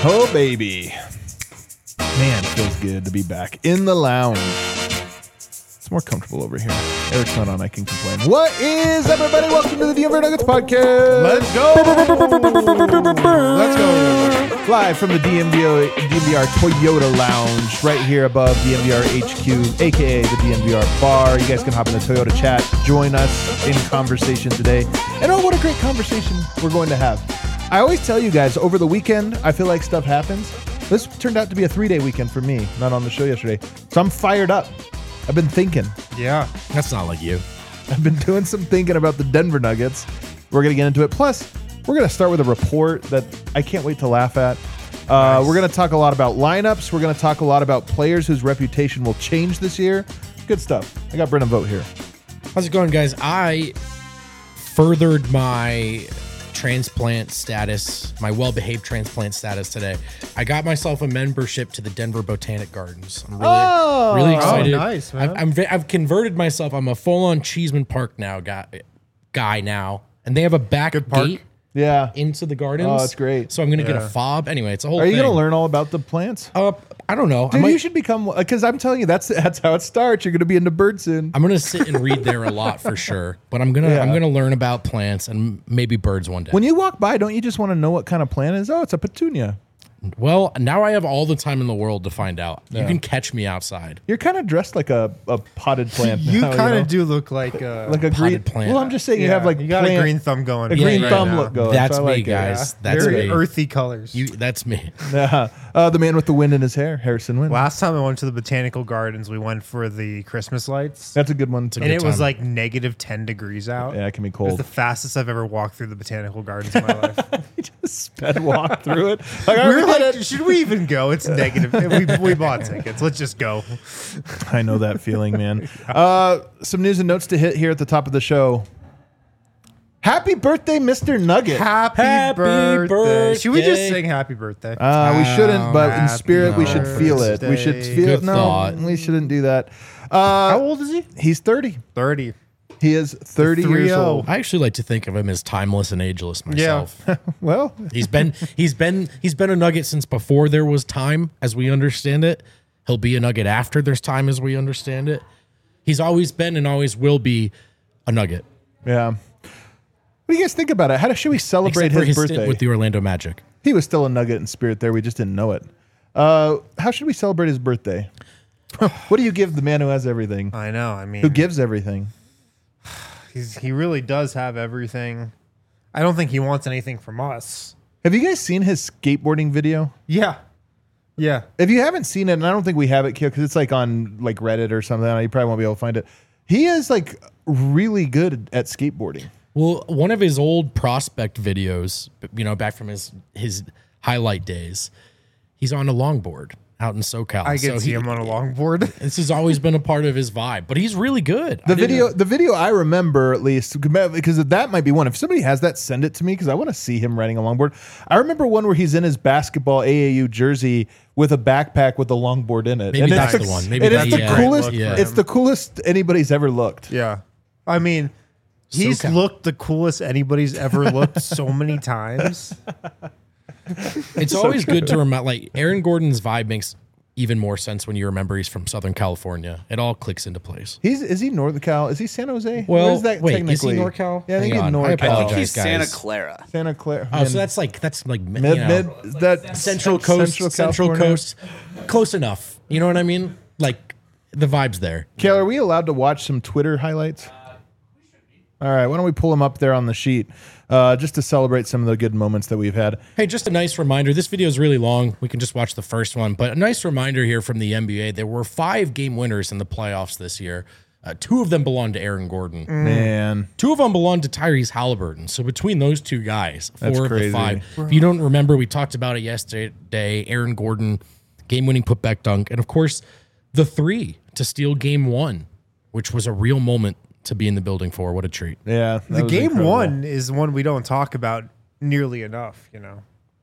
Oh, baby. Man, it feels good to be back in the lounge. It's more comfortable over here. Eric's not on, I can complain. What is up, everybody? Welcome to the DMVR Nuggets podcast. Let's go. Let's go. Live from the DMVR Toyota Lounge, right here above DMVR HQ, a.k.a. the DMVR Bar. You guys can hop in the Toyota chat, join us in conversation today. And oh, what a great conversation we're going to have. I always tell you guys, over the weekend, I feel like stuff happens. This turned out to be a 3-day weekend for me, not on the show yesterday. So I'm fired up. I've been thinking. Yeah. That's not like you. I've been doing some thinking about the Denver Nuggets. We're going to get into it. Plus, we're going to start with a report that I can't wait to laugh at. Nice. We're going to talk a lot about lineups. We're going to talk a lot about players whose reputation will change this year. Good stuff. I got Brennan Vogt here. How's it going, guys? I furthered my transplant status, my well-behaved transplant status today. I got myself a membership to the Denver Botanic Gardens. I'm really excited. Oh, nice, man. I've converted myself. I'm a full-on Cheeseman Park now guy now, and they have a back gate into the gardens. Oh, that's great. So I'm gonna get a fob. Anyway, it's a whole. Are you thing. gonna learn all about the plants? I don't know. Dude, you should become, because I'm telling you, that's how it starts. You're going to be into birds soon. I'm gonna sit and read there a lot for sure, but I'm gonna learn about plants and maybe birds one day. When you walk by, don't you just want to know what kind of plant it is? Oh, it's a petunia. Well, now I have all the time in the world to find out. Yeah. You can catch me outside. You're kind of dressed like a potted plant. You now, kind of do look like a potted green plant. Well, I'm just saying you have like you got a green thumb going. A green thumb look going. That's so me, like guys. Yeah. That's very me. earthy colors. That's me. The man with the wind in his hair, Harrison Wind. Last time I went to the Botanical Gardens, we went for the Christmas lights. That's a good one too. And it was like negative 10 degrees out. Yeah, it can be It cold. was the fastest I've ever walked through the Botanical Gardens in my life. You just sped walk through it. Like, We were like, should we even go? It's negative. We bought tickets. Let's just go. I know that feeling, man. Some news and notes to hit here at the top of the show. Happy birthday, Mr. Nugget. Happy birthday. Should we just sing happy birthday? We shouldn't, but in spirit, we should feel it. We should feel it. Good No, thought. we shouldn't do that. How old is he? He's 30. 30. He is 30 years 3-0. old. I actually like to think of him as timeless and ageless myself. Well, He's been a Nugget since before there was time, as we understand it. He'll be a Nugget after there's time, as we understand it. He's always been and always will be a Nugget. yeah. What do you guys think about it? How should we celebrate Except for his his stint birthday? with the Orlando Magic. He was still a Nugget in spirit there. We just didn't know it. How should we celebrate his birthday? What do you give the man who has everything? I know. I mean, Who gives everything? he really does have everything. I don't think he wants anything from us. Have you guys seen his skateboarding video? Yeah. Yeah. If you haven't seen it, and I don't think we have it, because it's like on like Reddit or something, you probably won't be able to find it. He is like really good at skateboarding. Well, one of his old prospect videos, back from his highlight days, he's on a longboard out in SoCal. I can see him on a longboard. This has always been a part of his vibe, but he's really good. The video I remember, at least, because that might be one. If somebody has that, send it to me, because I want to see him riding a longboard. I remember one where he's in his basketball AAU jersey with a backpack with a longboard in it. Maybe that's the one. Maybe it's the that's coolest. yeah. It's the coolest anybody's ever looked. Yeah. I mean, he's SoCal. looked the coolest anybody's ever looked so many times. It's always good to remember, like, Aaron Gordon's vibe makes even more sense when you remember he's from Southern California. It all clicks into place. Is he North Cal? Is he San Jose? Well, Where is that wait, technically? is he NorCal? Yeah, I think Hang he's on. I NorCal. apologize. I think he's Santa guys. Clara. Santa Clara. Oh, so that's like mid that Central Coast, Central California? Coast, close enough. You know what I mean? Like the vibe's there. Kale, are we allowed to watch some Twitter highlights? All right, why don't we pull them up there on the sheet just to celebrate some of the good moments that we've had. Hey, just a nice reminder. This video is really long. We can just watch the first one. But a nice reminder here from the NBA. There were 5 game winners in the playoffs this year. 2 of them belong to Aaron Gordon. Man, 2 of them belong to Tyrese Halliburton. So between those 2 guys, 4 That's of the crazy. 5. If you don't remember, we talked about it yesterday. Aaron Gordon, game-winning putback dunk. And, of course, the 3 to steal game 1, which was a real moment to be in the building for. What a treat. yeah. The game 1 is one we don't talk about nearly enough,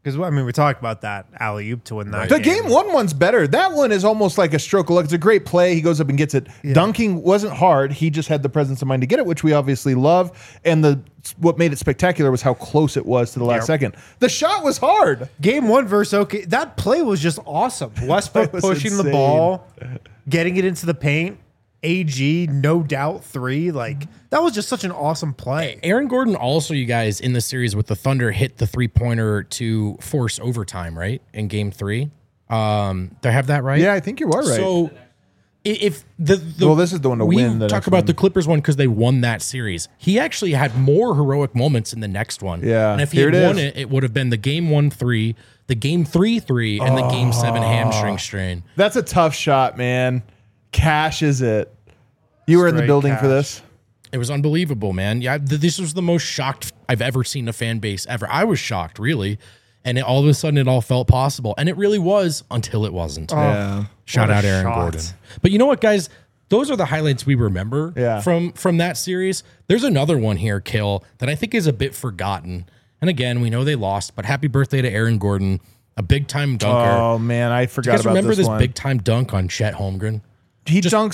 Because I mean, we talked about that alley oop to win that. The game one one's better. That one is almost like a stroke of luck. It's a great play. He goes up and gets it. Yeah. Dunking wasn't hard. He just had the presence of mind to get it, which we obviously love. And what made it spectacular was how close it was to the last second. The shot was hard. Game one versus OK. That play was just awesome. Westbrook pushing the ball, getting it into the paint. AG, no doubt 3. Like, that was just such an awesome play. Aaron Gordon also, you guys, in the series with the Thunder, hit the 3-pointer to force overtime, right? In game 3. Do I have that right? Yeah, I think you are right. So if the well, this is the one to win. We talk about the Clippers one because they won that series. He actually had more heroic moments in the next one. Yeah. And if he had won it, it would have been the game 1-3, the game 3-3, and the game 7 hamstring strain. That's a tough shot, man. Cashes it. You were in the building for this. It was unbelievable, man. Yeah, this was the most shocked I've ever seen a fan base ever. I was shocked, really. And all of a sudden, it all felt possible. And it really was until it wasn't. Yeah. Shout out Aaron Gordon. But you know what, guys? Those are the highlights we remember from that series. There's another one here, Kill, that I think is a bit forgotten. And again, we know they lost, but happy birthday to Aaron Gordon, a big-time dunker. Oh, man, I forgot about this one. You guys remember this big-time dunk on Chet Holmgren? He just dunks.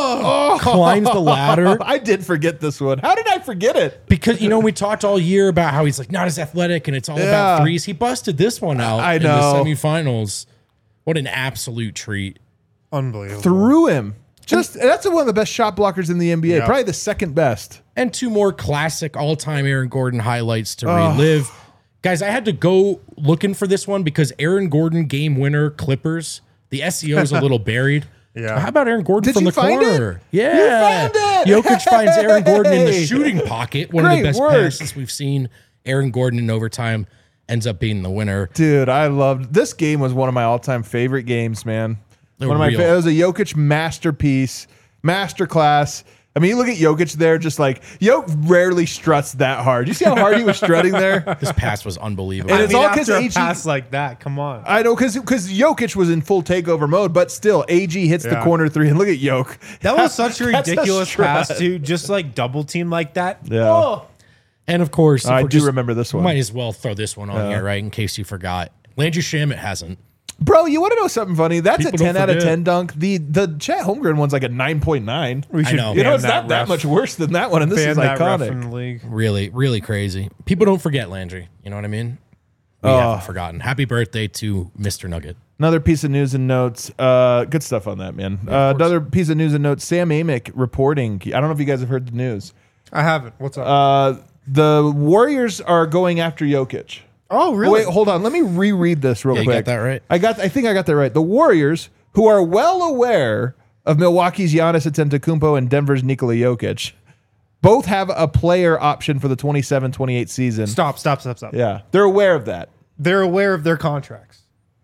Climbs the ladder. I did forget this one. How did I forget it? Because, we talked all year about how he's like not as athletic and it's all about threes. He busted this one out in the semifinals. What an absolute treat. Unbelievable. Threw him. That's one of the best shot blockers in the NBA. Yep. Probably the second best. And 2 more classic all-time Aaron Gordon highlights to relive. Guys, I had to go looking for this one because Aaron Gordon game winner Clippers. The SEO is a little buried. Yeah. How about Aaron Gordon from the corner? It? Yeah. You found it. Jokic finds Aaron Gordon in the shooting pocket. One of the best passes we've seen. Aaron Gordon in overtime ends up being the winner. Dude, I loved this game. Was one of my all-time favorite games, man. It was a Jokic masterpiece, masterclass. I mean, you look at Jokic there, just like rarely struts that hard. You see how hard he was strutting there? This pass was unbelievable. And it's all because a pass like that. Come on, I know because Jokic was in full takeover mode, but still, AG hits the corner 3, and look at Jokic. That was such a ridiculous pass, too. Just like double team like that. Yeah. Oh. And of course, I do remember this one. Might as well throw this one on here, right, in case you forgot. Landry Shamet hasn't. Bro, you want to know something funny? That's a 10 out of 10 dunk. The Chet Holmgren one's like a 9.9. I know. It's not that much worse than that one, and this is iconic. In the league. Really, really crazy. People don't forget Landry. You know what I mean? We haven't forgotten. Happy birthday to Mr. Nugget. Another piece of news and notes. Good stuff on that, man. Another piece of news and notes. Sam Amick reporting. I don't know if you guys have heard the news. I haven't. What's up? The Warriors are going after Jokic. Oh, really? Wait, hold on. Let me reread this real quick. You got that right? I think I got that right. The Warriors, who are well aware of Milwaukee's Giannis Antetokounmpo and Denver's Nikola Jokic, both have a player option for the 27-28 season. Stop. Yeah, they're aware of that. They're aware of their contracts.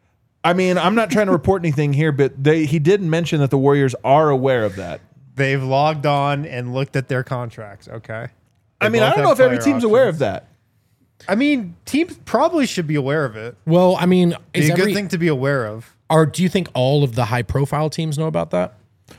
I mean, I'm not trying to report anything here, but he did mention that the Warriors are aware of that. They've logged on and looked at their contracts. Okay. I mean, I don't know if every team's aware of that. I mean, teams probably should be aware of it. Well, I mean, it's a good thing to be aware of. Do you think all of the high-profile teams know about that?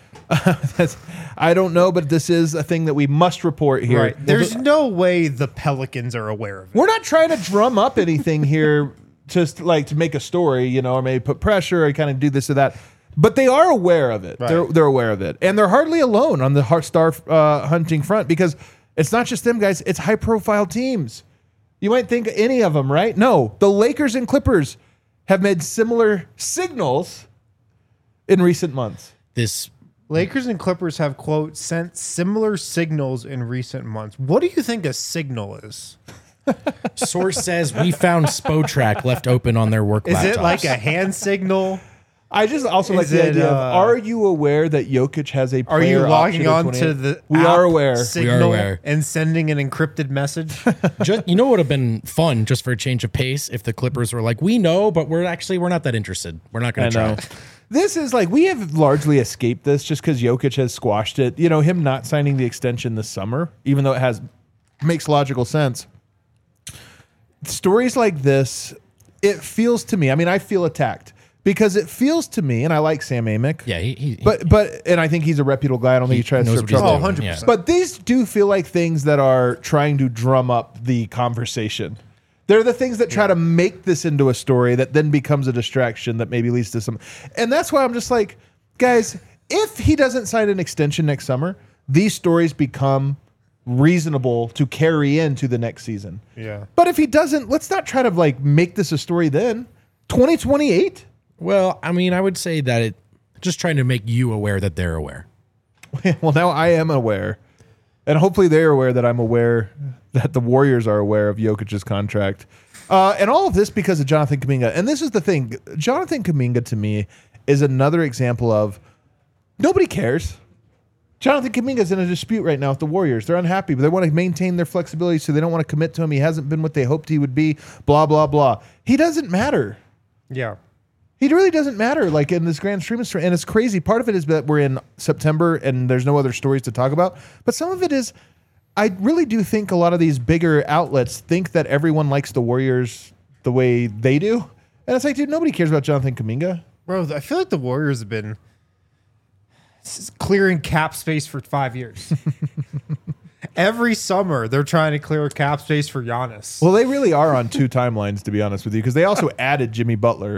I don't know, but this is a thing that we must report here. Right. There's no way the Pelicans are aware of it. We're not trying to drum up anything here, just like to make a story, or maybe put pressure or kind of do this or that. But they are aware of it. Right. They're aware of it, and they're hardly alone on the star hunting front because it's not just them guys; it's high-profile teams. You might think any of them, right? No, the Lakers and Clippers have made similar signals in recent months. This Lakers and Clippers have, quote, sent similar signals in recent months. What do you think a signal is? Source says we found Spotrac left open on their work laptops. Is it like a hand signal? I just also like the idea of, are you aware that Jokic has a player Are you logging on to the We are aware. Signal we are aware. And sending an encrypted message? You know what would have been fun just for a change of pace if the Clippers were like, we know, but we're not that interested. We're not going to try. This is like, we have largely escaped this just because Jokic has squashed it. Him not signing the extension this summer, even though it makes logical sense. Stories like this, it feels to me, I feel attacked. Because it feels to me, and I like Sam Amick. Yeah, but I think he's a reputable guy. I don't think he tries to stir trouble. 100%. But these do feel like things that are trying to drum up the conversation. They're the things that try to make this into a story that then becomes a distraction that maybe leads to some. And that's why I'm just like, guys, if he doesn't sign an extension next summer, these stories become reasonable to carry into the next season. Yeah. But if he doesn't, let's not try to like make this a story then. 2028? Well, I mean, I would say that it just trying to make you aware that they're aware. Well, now I am aware. And hopefully they're aware that I'm aware that the Warriors are aware of Jokic's contract. And all of this because of Jonathan Kuminga. And this is the thing. Jonathan Kuminga, to me, is another example of nobody cares. Jonathan Kuminga's in a dispute right now with the Warriors. They're unhappy, but they want to maintain their flexibility, so they don't want to commit to him. He hasn't been what they hoped he would be, blah, blah, blah. He doesn't matter. Yeah. He really doesn't matter, like in this grand stream of story. And it's crazy. Part of it is that we're in September and there's no other stories to talk about. But some of it is, I really do think a lot of these bigger outlets think that everyone likes the Warriors the way they do. And it's like, dude, nobody cares about Jonathan Kuminga. Bro, I feel like the Warriors have been clearing cap space for 5 years. Every summer, they're trying to clear cap space for Giannis. Well, they really are on two timelines, to be honest with you, because they also added Jimmy Butler.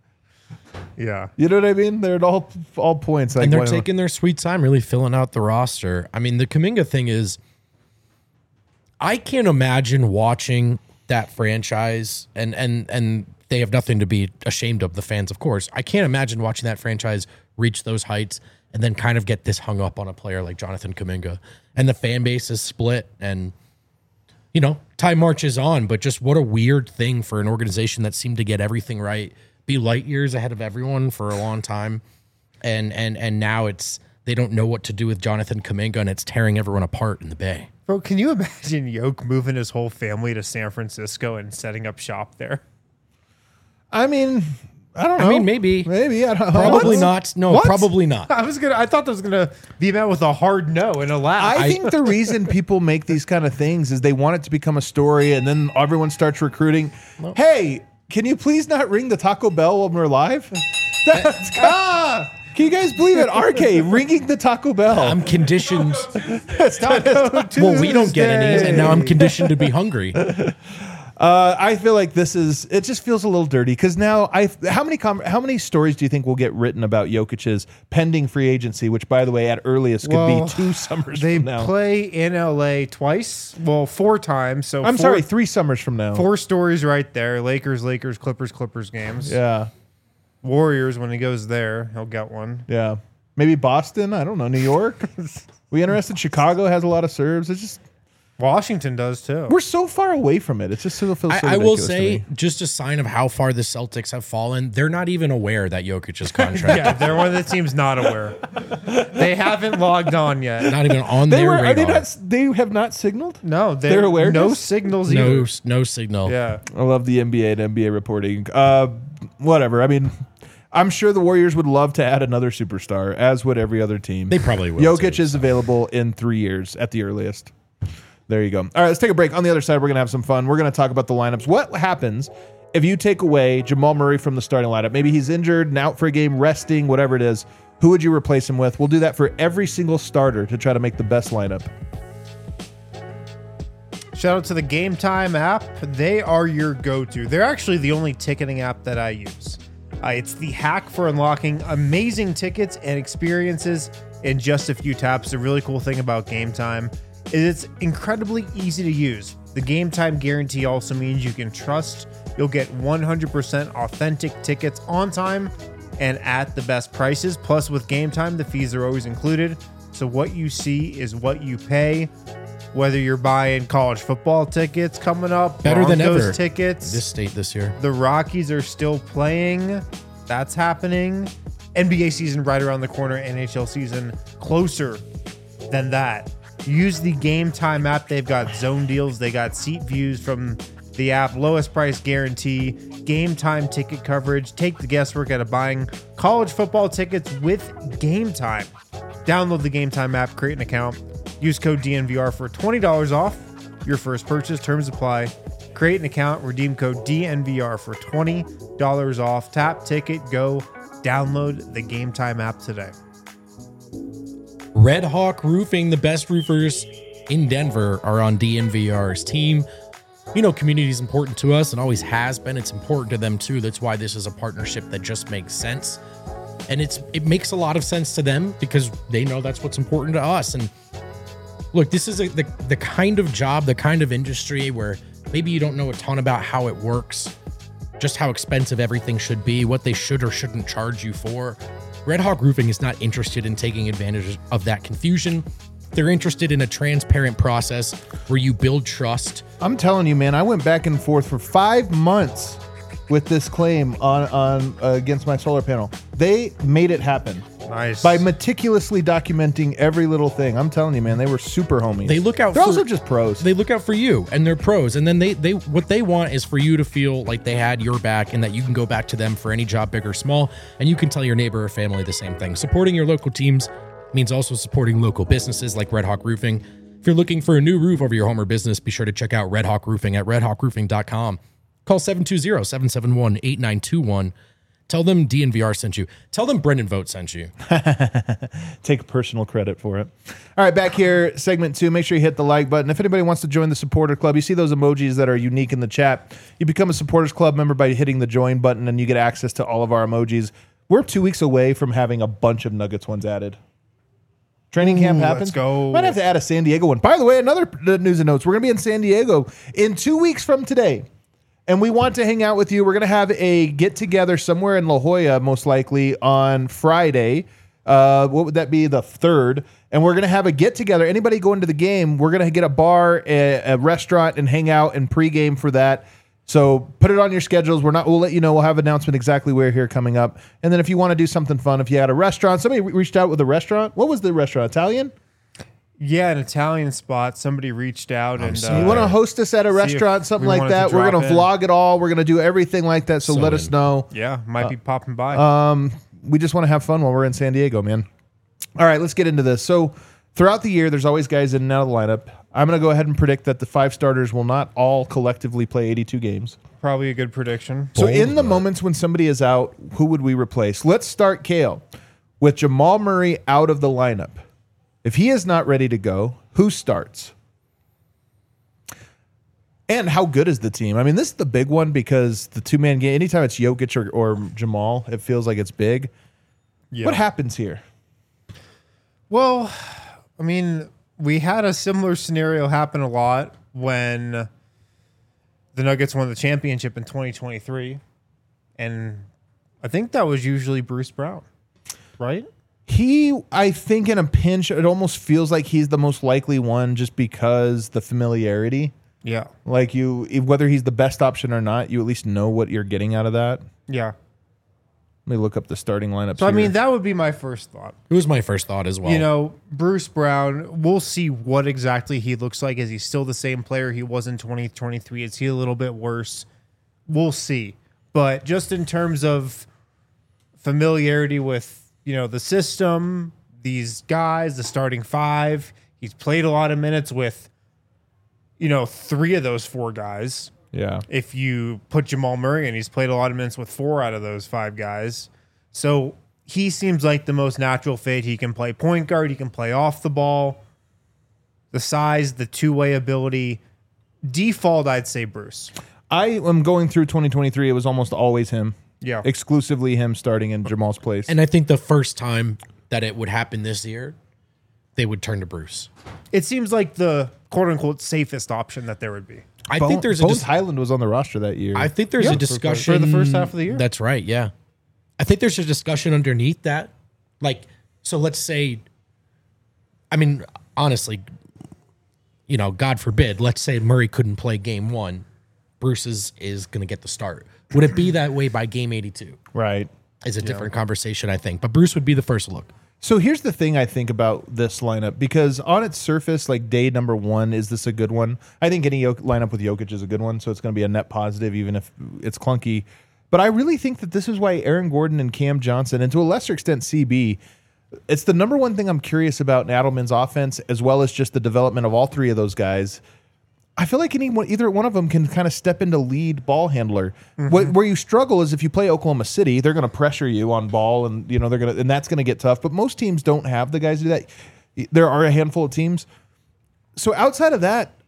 Yeah. You know what I mean? They're at all points. Like, And they're taking their sweet time, really filling out the roster. I mean, the Kuminga thing is, I can't imagine watching that franchise, and they have nothing to be ashamed of, the fans, of course. I can't imagine watching that franchise reach those heights and then kind of get this hung up on a player like Jonathan Kuminga. And the fan base is split, and, you know, time marches on, but just what a weird thing for an organization that seemed to get everything right, be light years ahead of everyone for a long time. And now it's, they don't know what to do with Jonathan Kuminga, and it's tearing everyone apart in the Bay. Bro, can you imagine Yoke moving his whole family to San Francisco and setting up shop there? I mean, I don't know. I mean, maybe. I don't know. Probably not. No, What? probably not. I thought that was gonna be met with a hard no and a laugh. I think the reason people make these kind of things is they want it to become a story, and then everyone starts recruiting. Hey, can you please not ring the Taco Bell when we're live? Can you guys believe it? RK ringing the Taco Bell. I'm conditioned. Taco Well, we don't get any, Tuesday. and now I'm conditioned to be hungry. I feel like it just feels a little dirty because now how many stories do you think will get written about Jokic's pending free agency, which by the way at earliest could be 2 summers They from now. play in LA twice. Well, 4 times. So I'm sorry, 3 summers from now. 4 stories right there. Lakers, Clippers games. Yeah. Warriors, when he goes there, he'll get one. Yeah. Maybe Boston, I don't know, New York. We interested? Chicago has a lot of Serbs. It's just Washington does too. we're so far away from it. It just feels so I will ridiculous to say, me. just a sign of how far the Celtics have fallen, they're not even aware that Jokic's contract, Yeah, they're one of the teams not aware. They haven't logged on yet. not even on They their are they radar. not? They have not signaled. No, They're aware? No signals either. No signal. Yeah. I love the NBA and NBA reporting. Whatever. I mean, I'm sure the Warriors would love to add another superstar, as would every other team. They probably will. Jokic too, is available in 3 years at the earliest. There you go. All right, let's take a break. On the other side, we're going to have some fun. We're going to talk about the lineups. What happens if you take away Jamal Murray from the starting lineup? Maybe he's injured and out for a game, resting, whatever it is. Who would you replace him with? We'll do that for every single starter to try to make the best lineup. Shout out to the Game Time app. They are your go-to. They're actually the only ticketing app that I use. It's the hack for unlocking amazing tickets and experiences in just a few taps. The really cool thing about Game Time is it's incredibly easy to use. The Game Time guarantee also means you can trust you'll get 100% authentic tickets on time and at the best prices. Plus, with Game Time, the fees are always included. So what you see is what you pay. Whether you're buying college football tickets coming up, Better than Broncos ever. tickets, This state this year. the Rockies are still playing. That's happening. NBA season right around the corner. NHL season closer than that. Use the Game Time app. They've got zone deals. They got seat views from the app. Lowest price guarantee. Game Time ticket coverage. Take the guesswork out of buying college football tickets with Game Time. Download the Game Time app. Create an account. Use code DNVR for $20 off your first purchase. Terms apply. Create an account. Redeem code DNVR for $20 off. Tap, ticket, go. Download the Game Time app today. Red Hawk Roofing, the best roofers in Denver, are on DNVR's team. community is important to us and always has been. It's important to them too. That's why this is a partnership that just makes sense. And it makes a lot of sense to them because they know that's what's important to us. And look, this is the kind of job, the kind of industry where maybe you don't know a ton about how it works, just how expensive everything should be, what they should or shouldn't charge you for. Red Hawk Roofing is not interested in taking advantage of that confusion. They're interested in a transparent process where you build trust. I'm telling you, man, I went back and forth for 5 months with this claim on against my solar panel. They made it happen. Nice. By meticulously documenting every little thing. I'm telling you, man, they were super homies. They look out They're for, also just pros. They look out for you, and they're pros. And then they what they want is for you to feel like they had your back and that you can go back to them for any job, big or small, and you can tell your neighbor or family the same thing. Supporting your local teams means also supporting local businesses like Red Hawk Roofing. If you're looking for a new roof over your home or business, be sure to check out Red Hawk Roofing at redhawkroofing.com. Call 720-771-8921. Tell them DNVR sent you. Tell them Brendan Vogt sent you. Take personal credit for it. All right, back here, segment 2. Make sure you hit the like button. If anybody wants to join the supporter club, you see those emojis that are unique in the chat. You become a supporters club member by hitting the join button, and you get access to all of our emojis. We're 2 weeks away from having a bunch of Nuggets ones added. Training camp happens. Let's go. Might have to add a San Diego one. By the way, another news and notes. We're going to be in San Diego in 2 weeks from today. And we want to hang out with you. We're going to have a get-together somewhere in La Jolla, most likely, on Friday. What would that be? The 3rd. And we're going to have a get-together. Anybody going to the game, we're going to get a bar, a restaurant, and hang out and pregame for that. So put it on your schedules. We'll let you know. We'll have an announcement exactly where here coming up. And then if you want to do something fun, if you had a restaurant, somebody reached out with a restaurant. What was the restaurant? Italian? Yeah, an Italian spot. Somebody reached out and You want to host us at a restaurant, something we like wanted that? to We're drop going to in. vlog it all. We're going to do everything like that. So let us know. Yeah, might be popping by. We just want to have fun while we're in San Diego, man. All right, let's get into this. So throughout the year, there's always guys in and out of the lineup. I'm going to go ahead and predict that the 5 starters will not all collectively play 82 games. Probably a good prediction. So in the moments when somebody is out, who would we replace? Let's start, Kale, with Jamal Murray out of the lineup. If he is not ready to go, who starts? And how good is the team? I mean, this is the big one because the two-man game, anytime it's Jokic or Jamal, it feels like it's big. Yeah. What happens here? Well, I mean, we had a similar scenario happen a lot when the Nuggets won the championship in 2023. And I think that was usually Bruce Brown, right? I think in a pinch, it almost feels like he's the most likely one just because the familiarity. Yeah. Like whether he's the best option or not, you at least know what you're getting out of that. Yeah. Let me look up the starting lineup. So, I mean, that would be my first thought. It was my first thought as well. You know, Bruce Brown, we'll see what exactly he looks like. Is he still the same player he was in 2023? Is he a little bit worse? We'll see. But just in terms of familiarity with, the system, these guys, the starting 5, he's played a lot of minutes with, 3 of those 4 guys. Yeah. If you put Jamal Murray in, he's played a lot of minutes with 4 out of those 5 guys. So he seems like the most natural fit. He can play point guard. He can play off the ball. The size, the two-way ability. Default, I'd say Bruce. I am going through 2023. It was almost always him. Yeah. Exclusively him starting in Jamal's place. And I think the first time that it would happen this year, they would turn to Bruce. It seems like the quote-unquote safest option that there would be. I think there's Bones Highland was on the roster that year. I think there's Yeah, a for discussion the first half of the year. That's right. Yeah, I think there's a discussion underneath that. Like, so let's say, I mean, honestly, God forbid, let's say Murray couldn't play game 1, Bruce is going to get the start. Would it be that way by game 82? Right. Is a different conversation, I think. But Bruce would be the first look. So here's the thing I think about this lineup, because on its surface, like day number 1, is this a good one? I think any lineup with Jokic is a good one, so it's going to be a net positive, even if it's clunky. But I really think that this is why Aaron Gordon and Cam Johnson, and to a lesser extent CB, it's the number one thing I'm curious about in Adelman's offense, as well as just the development of all 3 of those guys. I feel like either one of them can kind of step into lead ball handler. Mm-hmm. Where you struggle is if you play Oklahoma City, they're going to pressure you on ball, and and that's going to get tough. But most teams don't have the guys do that. There are a handful of teams. So outside of that,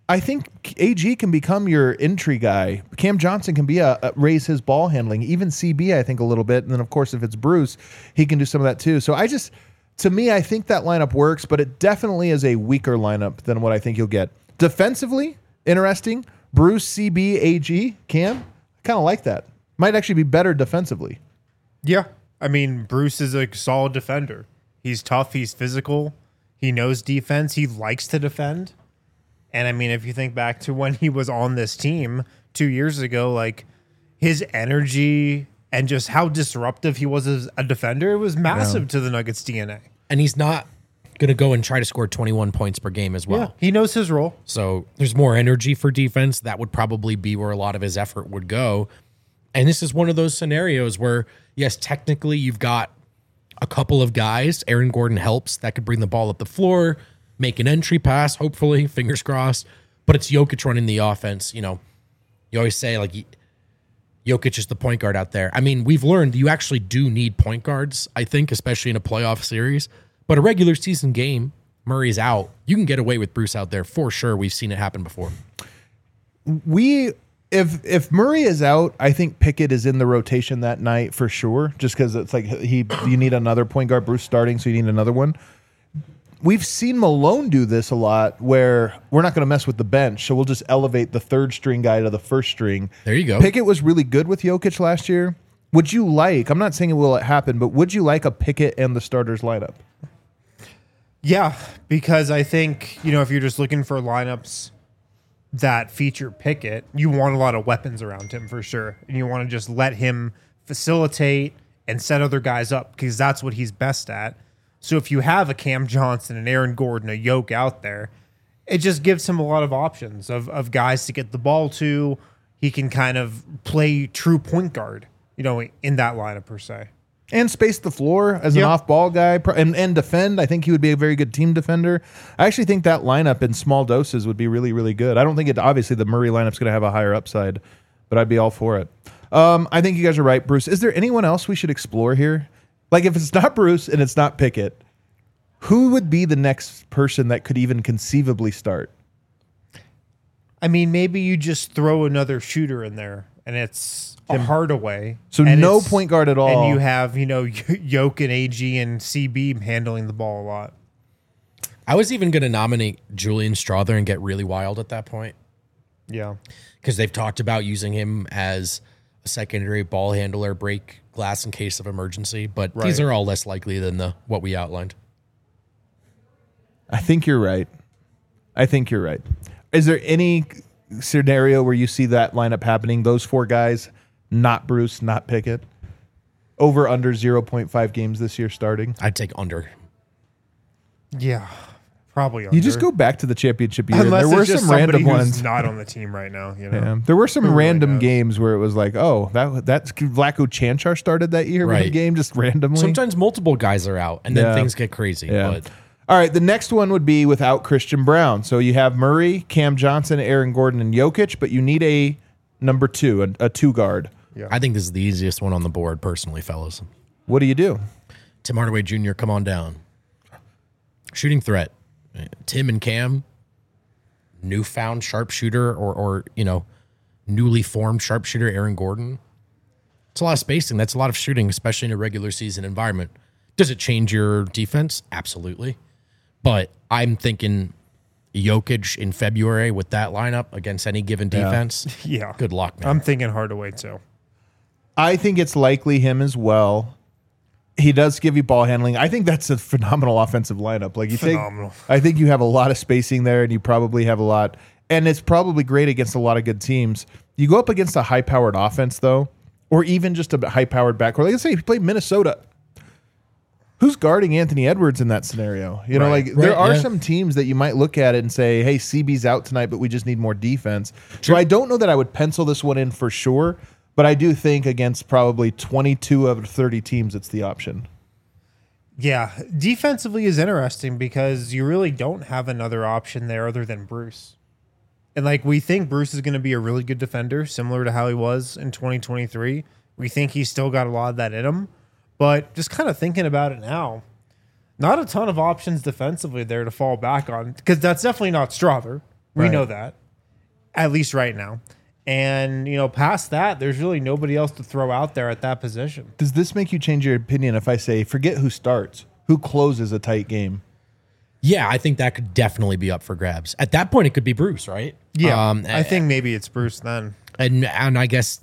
I think AG can become your entry guy. Cam Johnson can be raise his ball handling. Even CB, I think, a little bit. And then, of course, if it's Bruce, he can do some of that too. So to me, I think that lineup works, but it definitely is a weaker lineup than what I think you'll get. Defensively, interesting. Bruce, CB, AG, Cam, I kind of like that. Might actually be better defensively. Yeah. I mean, Bruce is a solid defender. He's tough. He's physical. He knows defense. He likes to defend. And I mean, if you think back to when he was on this team 2 years ago, like his energy and just how disruptive he was as a defender, it was massive to the Nuggets DNA. And he's not going to go and try to score 21 points per game as well. Yeah, he knows his role. So there's more energy for defense. That would probably be where a lot of his effort would go. And this is one of those scenarios where, yes, technically you've got a couple of guys. Aaron Gordon helps. That could bring the ball up the floor, make an entry pass, hopefully, fingers crossed. But it's Jokic running the offense. You know, you always say, like, Jokic is the point guard out there. I mean, we've learned you actually do need point guards, I think, especially in a playoff series. But a regular season game, Murray's out. You can get away with Bruce out there for sure. We've seen it happen before. If Murray is out, I think Pickett is in the rotation that night for sure, just because it's like you need another point guard. Bruce starting, so you need another one. We've seen Malone do this a lot where we're not going to mess with the bench, so we'll just elevate the third string guy to the first string. There you go. Pickett was really good with Jokic last year. Would you like, I'm not saying it will happen, but would you like a Pickett and the starters lineup? Yeah, because I think, you know, if you're just looking for lineups that feature Pickett, you want a lot of weapons around him for sure. And you want to just let him facilitate and set other guys up because that's what he's best at. So if you have a Cam Johnson, an Aaron Gordon, a Yoke out there, it just gives him a lot of options of guys to get the ball to. He can kind of play true point guard, you know, in that lineup per se. And space the floor as an off-ball guy and defend. I think he would be a very good team defender. I actually think that lineup in small doses would be really, really good. I don't think obviously the Murray lineup's going to have a higher upside, but I'd be all for it. I think you guys are right, Bruce. Is there anyone else we should explore here? Like if it's not Bruce and it's not Pickett, who would be the next person that could even conceivably start? I mean, maybe you just throw another shooter in there and it's a Hardaway. So no point guard at all. And you have, you know, Yoke and AG and CB handling the ball a lot. I was even going to nominate Julian Strawther and get really wild at that point. Yeah. Because they've talked about using him as a secondary ball handler, break glass in case of emergency. But these are all less likely than what we outlined. I think you're right. Is there any scenario where you see that lineup happening? Those four guys, not Bruce, not Pickett, over under 0.5 games this year starting? I'd take under. Yeah, probably under. You just go back to the championship year. Unless there were it's just some random somebody who's ones. not on the team right now. You know, Yeah. There were some random games where it was like, oh, that's Vlatko Chanchar started that year. One game just randomly. Sometimes multiple guys are out, and then things get crazy. Yeah. But all right, the next one would be without Christian Brown. So you have Murray, Cam Johnson, Aaron Gordon, and Jokic, but you need a number two, a two guard. Yeah. I think this is the easiest one on the board, personally, fellas. What do you do? Tim Hardaway Jr., come on down. Shooting threat. Tim and Cam, newfound sharpshooter or you know, newly formed sharpshooter Aaron Gordon. It's a lot of spacing. That's a lot of shooting, especially in a regular season environment. Does it change your defense? Absolutely. But I'm thinking Jokic in February with that lineup against any given defense. Yeah. Good luck, man. I'm thinking Hardaway too. I think it's likely him as well. He does give you ball handling. I think that's a phenomenal offensive lineup. Like I think you have a lot of spacing there, and you probably have a lot. And it's probably great against a lot of good teams. You go up against a high-powered offense, though, or even just a high-powered backcourt. Like, let's say if you play Minnesota. Who's guarding Anthony Edwards in that scenario? You know, there are some teams that you might look at it and say, hey, CB's out tonight, but we just need more defense. So I don't know that I would pencil this one in for sure, but I do think against probably 22 of 30 teams, it's the option. Yeah. Defensively is interesting because you really don't have another option there other than Bruce. And like we think Bruce is going to be a really good defender, similar to how he was in 2023. We think he's still got a lot of that in him. But just kind of thinking about it now, not a ton of options defensively there to fall back on because that's definitely not Strawther. We Right. know that, at least right now. And, past that, there's really nobody else to throw out there at that position. Does this make you change your opinion if I say, forget who starts, who closes a tight game? Yeah, I think that could definitely be up for grabs. At that point, it could be Bruce, right? I think maybe it's Bruce then. And I guess,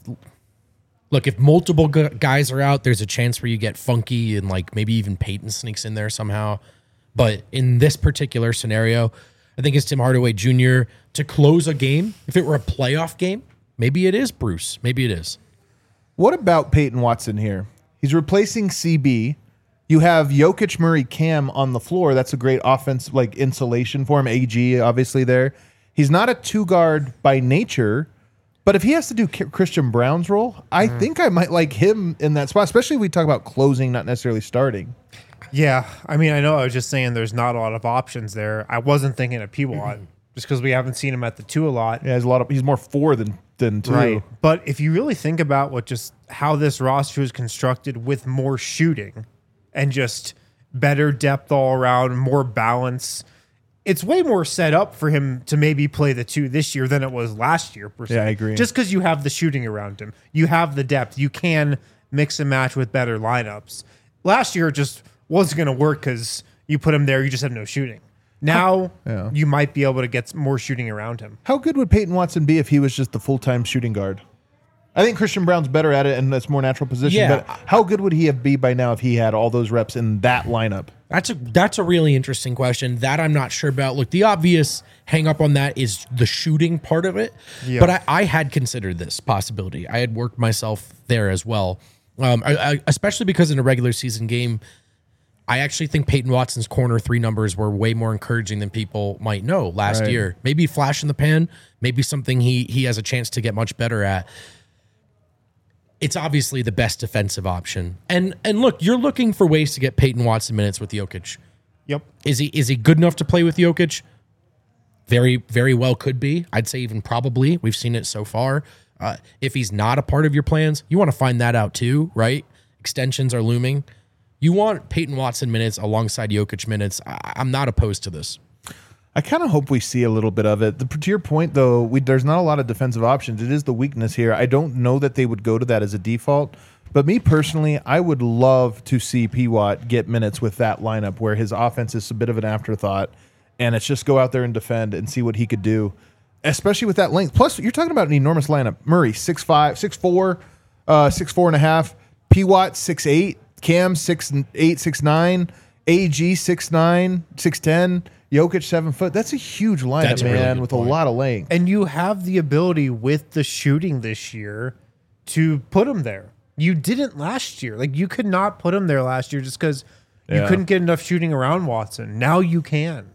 look, if multiple guys are out, there's a chance where you get Funky and like maybe even Peyton sneaks in there somehow. But in this particular scenario, I think it's Tim Hardaway Jr. to close a game. If it were a playoff game, maybe it is Bruce. Maybe it is. What about Peyton Watson here? He's replacing CB. You have Jokic, Murray, Cam on the floor. That's a great offense, like insulation for him. AG, obviously, there. He's not a two guard by nature, but if he has to do Christian Brown's role, I think I might like him in that spot, especially if we talk about closing, not necessarily starting. Yeah. I mean, I know I was just saying there's not a lot of options there. I wasn't thinking of P-Watt just because we haven't seen him at the 2 a lot. Yeah, he's more 4 than 2. Right. But if you really think about how this roster is constructed with more shooting and just better depth all around, more balance, it's way more set up for him to maybe play the 2 this year than it was last year. Per se. Yeah, I agree. Just because you have the shooting around him, you have the depth, you can mix and match with better lineups. Last year, it just wasn't going to work because you put him there, you just have no shooting. Now, you might be able to get more shooting around him. How good would Peyton Watson be if he was just the full-time shooting guard? I think Christian Brown's better at it, and that's more natural position. Yeah. But how good would he be by now if he had all those reps in that lineup? That's a really interesting question that I'm not sure about. Look, the obvious hang up on that is the shooting part of it. Yeah. But I had considered this possibility. I had worked myself there as well, especially because in a regular season game, I actually think Peyton Watson's corner 3 numbers were way more encouraging than people might know last Right. year. Maybe flash in the pan, maybe something he has a chance to get much better at. It's obviously the best defensive option. And look, you're looking for ways to get Peyton Watson minutes with Jokic. Yep. Is he good enough to play with Jokic? Very, very well could be. I'd say even probably. We've seen it so far. If he's not a part of your plans, you want to find that out too, right? Extensions are looming. You want Peyton Watson minutes alongside Jokic minutes. I'm not opposed to this. I kind of hope we see a little bit of it. To your point, though, there's not a lot of defensive options. It is the weakness here. I don't know that they would go to that as a default. But me personally, I would love to see P-Watt get minutes with that lineup where his offense is a bit of an afterthought, and it's just go out there and defend and see what he could do, especially with that length. Plus, you're talking about an enormous lineup. Murray, 6'5", 6'4", 6'4.5". P-Watt, 6'8". Cam, 6'8", 6'9". AG, 6'9", 6'10". Jokic, 7 foot. That's a huge lineup, That's a really man, good with point. a lot of length. And you have the ability with the shooting this year to put him there. You didn't last year. Like, you could not put him there last year just because you couldn't get enough shooting around Watson. Now you can.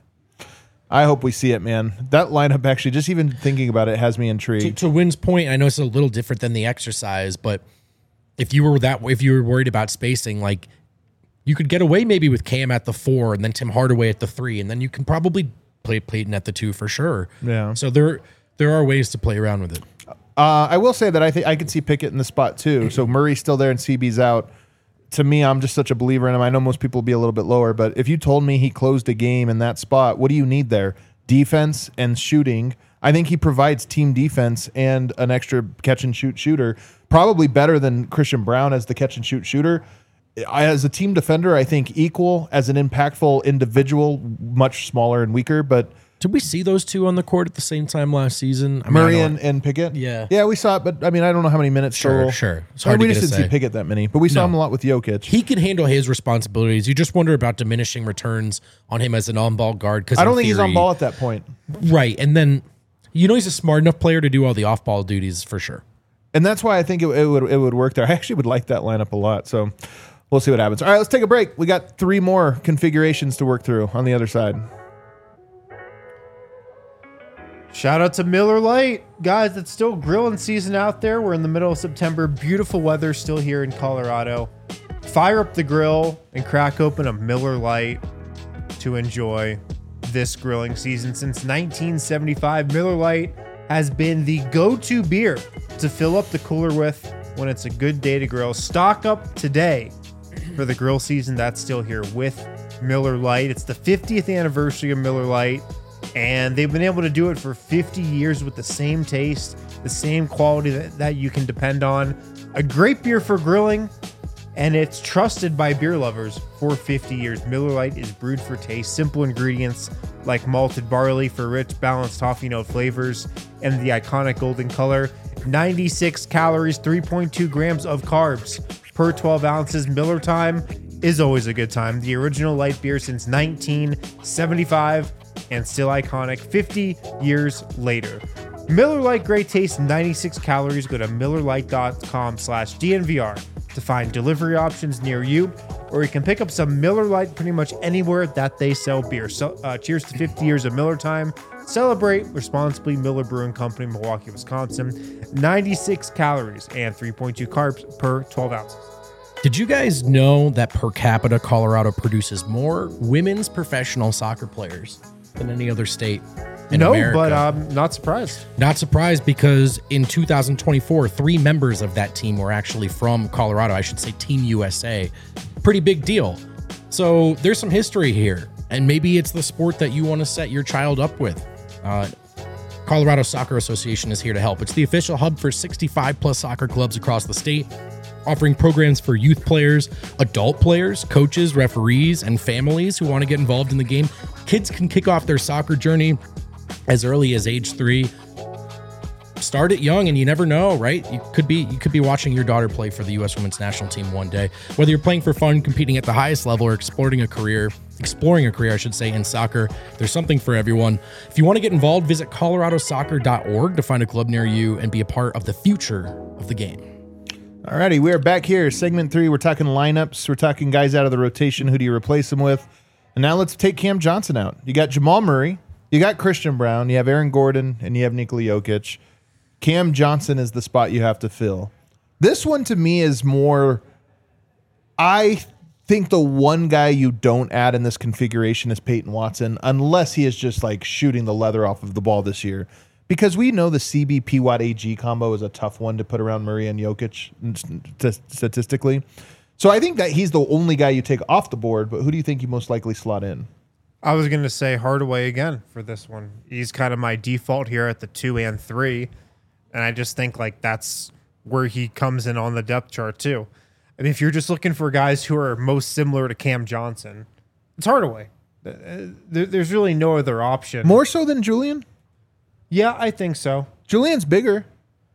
I hope we see it, man. That lineup, actually, just even thinking about it, has me intrigued. To Wynn's point, I know it's a little different than the exercise, but if you were worried about spacing, like, you could get away maybe with Cam at the 4 and then Tim Hardaway at the 3, and then you can probably play Peyton at the 2 for sure. Yeah. So there are ways to play around with it. I will say that I think I could see Pickett in the spot too. So Murray's still there and CB's out. To me, I'm just such a believer in him. I know most people will be a little bit lower, but if you told me he closed a game in that spot, what do you need there? Defense and shooting. I think he provides team defense and an extra catch and shoot shooter, probably better than Christian Brown as the catch and shoot shooter. As a team defender, I think equal. As an impactful individual, much smaller and weaker, but Did we see those two on the court at the same time last season? I mean, Murray I know- and Pickett. Yeah. Yeah, we saw it, but I mean, I don't know how many minutes total. Sure. It's Or hard we to just get didn't a see say. Pickett that many, but we saw No. him a lot with Jokic. He can handle his responsibilities. You just wonder about diminishing returns on him as an on-ball guard. Because I don't think he's on ball at that point. Right. And then, he's a smart enough player to do all the off-ball duties for sure. And that's why I think it would work there. I actually would like that lineup a lot. So we'll see what happens. All right, let's take a break. We got 3 more configurations to work through on the other side. Shout out to Miller Lite. Guys, it's still grilling season out there. We're in the middle of September. Beautiful weather still here in Colorado. Fire up the grill and crack open a Miller Lite to enjoy this grilling season. Since 1975, Miller Lite has been the go-to beer to fill up the cooler with when it's a good day to grill. Stock up today for the grill season that's still here with Miller Lite. It's the 50th anniversary of Miller Lite. And they've been able to do it for 50 years with the same taste, the same quality that you can depend on. A great beer for grilling, and it's trusted by beer lovers for 50 years. Miller Lite is brewed for taste. Simple ingredients like malted barley for rich, balanced toffee note flavors and the iconic golden color. 96 calories, 3.2 grams of carbs per 12 ounces. Miller time is always a good time. The original light beer since 1975 and still iconic 50 years later. Miller Lite, great taste, 96 calories. Go to MillerLite.com/DNVR to find delivery options near you, or you can pick up some Miller Lite pretty much anywhere that they sell beer. So, cheers to 50 years of Miller time. Celebrate responsibly. Miller Brewing Company, Milwaukee, Wisconsin. 96 calories and 3.2 carbs per 12 ounces. Did you guys know that per capita, Colorado produces more women's professional soccer players than any other state in America? But I'm not surprised. Not surprised, because in 2024, 3 members of that team were actually from Colorado. I should say Team USA. Pretty big deal. So there's some history here, and maybe it's the sport that you want to set your child up with. Colorado Soccer Association is here to help. It's the official hub for 65 plus soccer clubs across the state, offering programs for youth players, adult players, coaches, referees, and families who want to get involved in the game. Kids can kick off their soccer journey as early as age 3. Start it young, and you never know, right? You could be watching your daughter play for the U.S. Women's National Team one day. Whether you're playing for fun, competing at the highest level, or exploring a career, I should say, in soccer, there's something for everyone. If you want to get involved, visit coloradosoccer.org to find a club near you and be a part of the future of the game. Alrighty, we are back here. Segment 3, we're talking lineups. We're talking guys out of the rotation. Who do you replace them with? And now let's take Cam Johnson out. You got Jamal Murray, you got Christian Brown, you have Aaron Gordon, and you have Nikola Jokic. Cam Johnson is the spot you have to fill. This one to me is more, I think the one guy you don't add in this configuration is Peyton Watson, unless he is just like shooting the leather off of the ball this year. Because we know the CB Watt AG combo is a tough one to put around Murray and Jokic statistically. So I think that he's the only guy you take off the board, but who do you think you most likely slot in? I was going to say Hardaway again for this one. He's kind of my default here at the 2 and 3. And I just think like that's where he comes in on the depth chart too. I mean, if you're just looking for guys who are most similar to Cam Johnson, it's Hardaway. There's really no other option. More so than Julian? Yeah, I think so. Julian's bigger.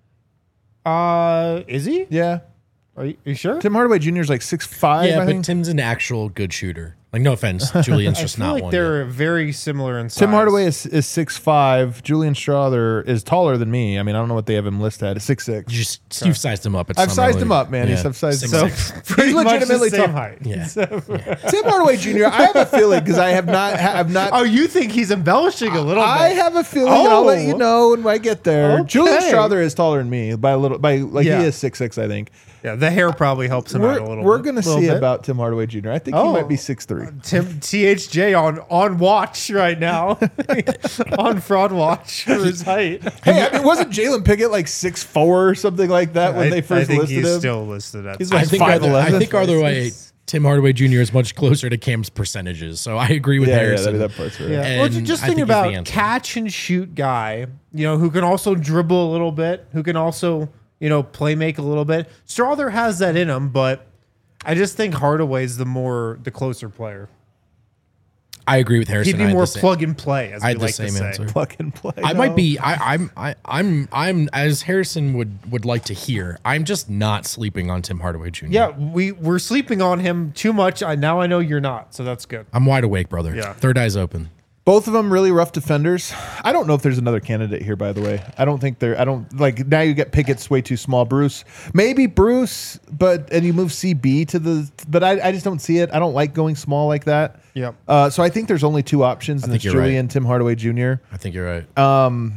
Is he? Yeah. Are you sure? Tim Hardaway Jr. is like 6'5", Yeah, I but think. Tim's an actual good shooter. Like, no offense, Julian's just I feel not like one. they're very similar in size. Tim Hardaway is 6'5". Julian Strother is taller than me. I mean, I don't know what they have him listed at. 6'6". You've sized him up. I've sized him up, man. I've sized him up. Pretty He's much legitimately the same tall. height. Yeah. Tim Hardaway Jr., I have a feeling, because I have not. Oh, you think he's embellishing a little bit? I have a feeling, and I'll let you Oh. know when I get there. Okay. Julian Strother is taller than me by a little. Yeah. He is 6'6", I think. Yeah, the hair probably helps him out a little bit. We're gonna see bit. about Tim Hardaway Jr. I think he Oh. might be 6'3". Tim THJ on watch right now, on fraud watch for his height. Hey, I mean, wasn't Jalen Pickett like 6'4" or something like that when they first I think listed he's him? still listed at. He's I like think either 5'11". way, Tim Hardaway Jr. is much closer to Cam's percentages. So I agree with Harrison. that part's right. Yeah. And Well, just I think think he's the about answer. catch and shoot guy, who can also dribble a little bit, who can also, play make a little bit. Strother has that in him, but I just think Hardaway's the closer player. I agree with Harrison. He'd be I had more the same- plug and play, as I we had the like to same say. answer. Plug and play. I might be. I'm as Harrison would like to hear. I'm just not sleeping on Tim Hardaway Jr. Yeah, we're sleeping on him too much. Now I know you're not, so that's good. I'm wide awake, brother. Yeah. Third eye's open. Both of them really rough defenders. I don't know if there's another candidate here, by the way. I don't now you get Pickett's way too small. Bruce, maybe Bruce, and you move CB to but I just don't see it. I don't like going small like that. Yep. So I think there's only two options, and think it's you're right. Julian, Tim Hardaway Jr. I think you're right.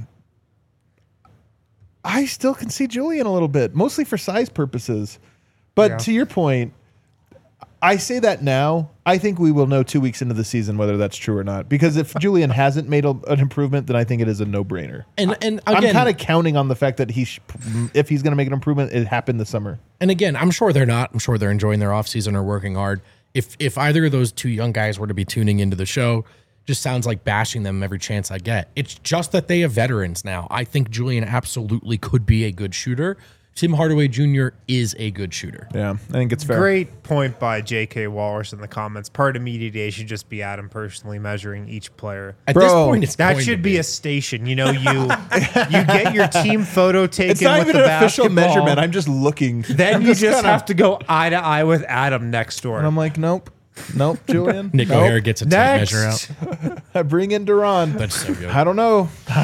I still can see Julian a little bit, mostly for size purposes. But Yeah. to your point, I say that now. I think we will know 2 weeks into the season whether that's true or not. Because if Julian hasn't made an improvement, then I think it is a no-brainer. And again, I'm kind of counting on the fact that if he's going to make an improvement, it happened this summer. And again, I'm sure they're not. I'm sure they're enjoying their offseason or working hard. If either of those two young guys were to be tuning into the show, just sounds like bashing them every chance I get. It's just that they have veterans now. I think Julian absolutely could be a good shooter. Tim Hardaway Jr. is a good shooter. Yeah, I think it's fair. Great point by J.K. Walrus in the comments. Part of Media Day should just be Adam personally measuring each player. At Bro, this point, it's That going should to be a station. You know, you get your team photo taken It's not with even the an official basketball. measurement. I'm just looking. Then I'm you just kinda- have to go eye to eye with Adam next door. And I'm like, nope, Julian. Nick nope. O'Hara gets a tape Next. measure out. I bring in Duran. That's so good. I don't know.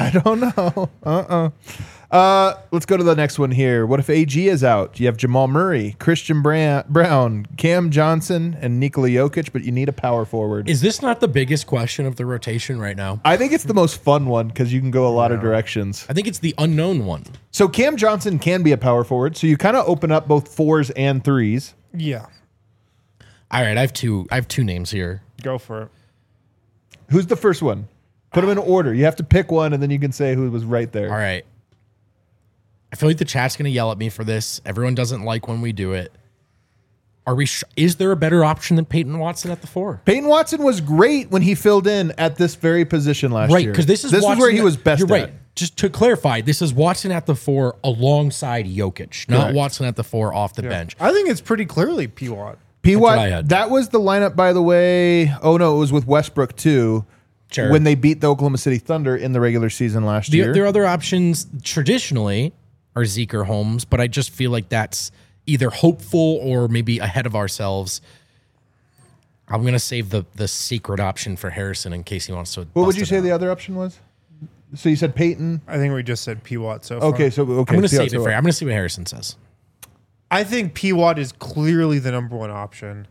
Let's go to the next one here. What if AG is out? You have Jamal Murray, Christian Brown, Cam Johnson, and Nikola Jokic, but you need a power forward. Is this not the biggest question of the rotation right now? I think it's the most fun one because you can go a lot of directions. I think it's the unknown one. So Cam Johnson can be a power forward. So you kind of open up both 4s and 3s. Yeah, All right, I have two names here. go for it. Who's the first one? Put them in order. You have to pick one, and then you can say who was right there. All right. I feel like the chat's going to yell at me for this. Everyone doesn't like when we do it. Is there a better option than Peyton Watson at the 4? Peyton Watson was great when he filled in at this very position last Right, year. because this is where he was best You're at. right. Just to clarify, this is Watson at the 4 alongside Jokic, not Correct. Watson at the 4 off the bench. I think it's pretty clearly P-Watt. what I P-Watt, had. that was the lineup, by the way. Oh, no, it was with Westbrook, too, Sure. when they beat the Oklahoma City Thunder in the regular season last year. Their other options traditionally are Zeke or Holmes, but I just feel like that's either hopeful or maybe ahead of ourselves. I'm going to save the secret option for Harrison in case he wants to. What would bust you it say out. the other option was? So you said Peyton. I think we just said P-Watt so far. Okay, I'm going to save it for you. I'm going to see what Harrison says. I think P-Watt is clearly the number one option.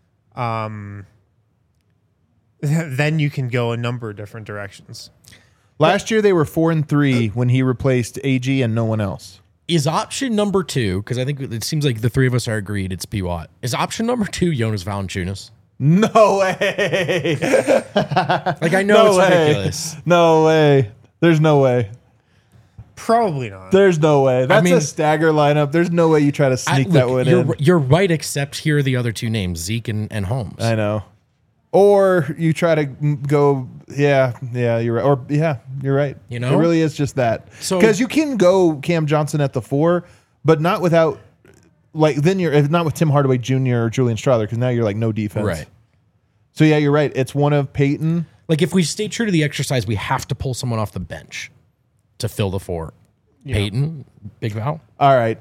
Then you can go a number of different directions. Last year they were 4-3 when he replaced AG and no one else. Is option number 2, because I think it seems like the three of us are agreed it's P. Watt. Is option number 2 Jonas Valanciunas? No way. Like, I know No it's way. ridiculous. No way. There's no way. Probably not. There's no way. That's mean- a stagger lineup. There's no way you try to sneak that one in. You're right, except here are the other two names, Zeke and Holmes. I know. Or you try to go, you're right. Or you're right. You know? It really is just that. So- Because you can go Cam Johnson at the 4, but not without, then you're not with Tim Hardaway Jr. or Julian Strawther, because now you're like no defense. Right. So yeah, you're right. It's one of Peyton. Like, if we stay true to the exercise, we have to pull someone off the bench to fill the 4. Peyton, Big Val. All right.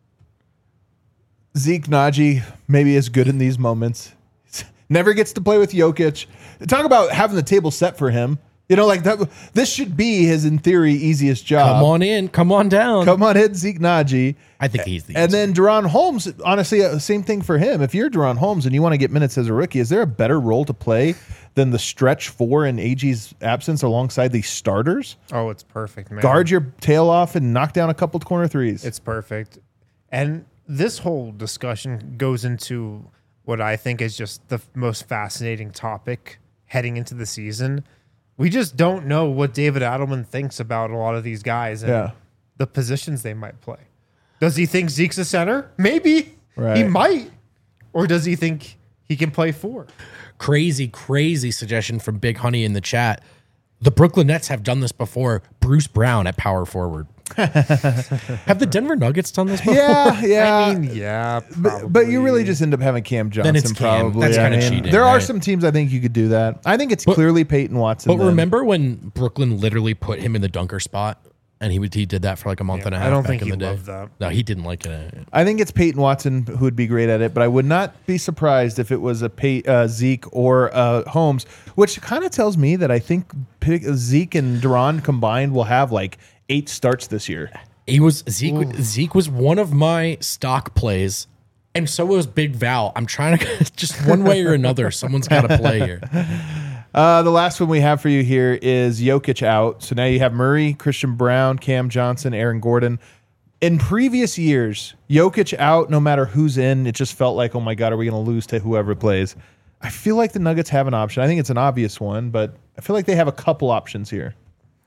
Zeke Naji maybe is good in these moments. Never gets to play with Jokic. Talk about having the table set for him. You know, like that. This should be his, in theory, easiest job. Come on in. Come on down. Come on in, Zeke Naji. I think he's the And then Duran Holmes, honestly, same thing for him. If you're Duran Holmes and you want to get minutes as a rookie, is there a better role to play than the stretch 4 in AG's absence alongside the starters? Oh, it's perfect, man. Guard your tail off and knock down a couple corner threes. It's perfect. And this whole discussion goes into what I think is just the most fascinating topic heading into the season. We just don't know what David Adelman thinks about a lot of these guys and the positions they might play. Does he think Zeke's a center? Maybe. Right. He might. Or does he think he can play 4? crazy suggestion from Big Honey in the chat. The Brooklyn Nets have done this before. Bruce Brown at power forward. Have the Denver Nuggets done this before? Yeah. I mean, yeah, But you really just end up having Cam Johnson, it's Cam. probably. That's I kinda mean, cheating, there are right? some teams I think you could do that. I think it's clearly Peyton Watson. But then. remember when Brooklyn literally put him in the dunker spot, and he did that for like a month and a half. I don't back think in he the day. loved that. No, he didn't like it. I think it's Peyton Watson who would be great at it, but I would not be surprised if it was a Zeke or Holmes, which kind of tells me that I think Zeke and Duran combined will have like 8 starts this year. Zeke was one of my stock plays, and so was Big Val. I'm trying to just one way or another. Someone's got to play here. The last one we have for you here is Jokic out. So now you have Murray, Christian Brown, Cam Johnson, Aaron Gordon. In previous years, Jokic out, no matter who's in, it just felt like, oh my God, are we going to lose to whoever plays? I feel like the Nuggets have an option. I think it's an obvious one, but I feel like they have a couple options here.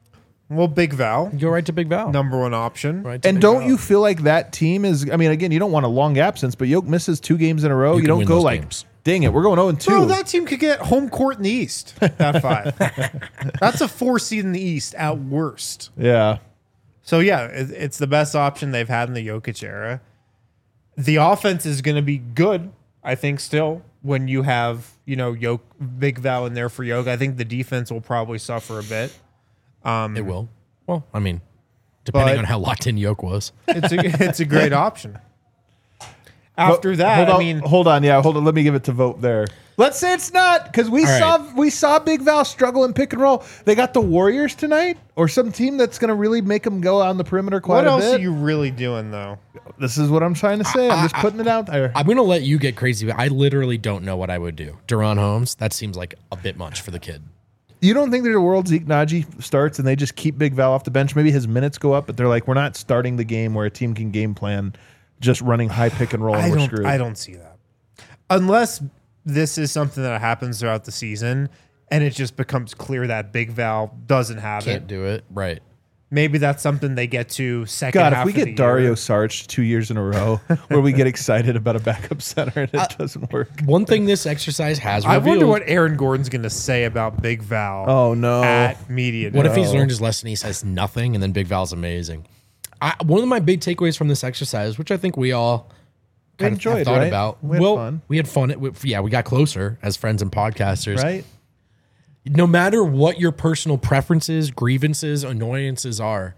Well, Big Val, Go right to Big Val. number one option. Right to And Big don't Val. you feel like that team is? I mean, again, you don't want a long absence, but Yoke misses 2 games in a row. You can don't win go those like, games. dang it, we're going 0-2. Bro, that team could get home court in the East at 5. That's a 4 seed in the East at worst. Yeah. So yeah, it's the best option they've had in the Jokic era. The offense is going to be good, I think, still when you have Big Val in there for Yoke. I think the defense will probably suffer a bit. It will. Well, I mean, depending But- on how locked in Yoke was. It's a great option. After that, hold on, I mean, hold on. Yeah, hold on. Let me give it to vote there. Let's say it's not because we All saw Big Val struggle in pick and roll. They got the Warriors tonight, or some team that's going to really make them go on the perimeter quite what a else bit. are you really doing though? This is what I'm trying to say. I'm just putting it out there. I'm going to let you get crazy, but I literally don't know what I would do. Duran Holmes, that seems like a bit much for the kid. You don't think there's a world Zeke Naji starts and they just keep Big Val off the bench? Maybe his minutes go up, but they're like, we're not starting the game where a team can game plan just running high pick and roll and we're screwed. I don't see that. Unless this is something that happens throughout the season and it just becomes clear that Big Val doesn't have Can't it. do it. Right. Maybe that's something they get to second God, half if we of the get Dario year. Saric 2 years in a row where we get excited about a backup center and it doesn't work. One thing this exercise has I revealed. wonder what Aaron Gordon's going to say about Big Val Oh, no. at media. What if day. he's learned his lesson? He says nothing, and then Big Val's amazing. One of my big takeaways from this exercise, which I think we all kind of enjoyed, have thought right? about. We had fun. We had fun. We got closer as friends and podcasters. Right? No matter what your personal preferences, grievances, annoyances are,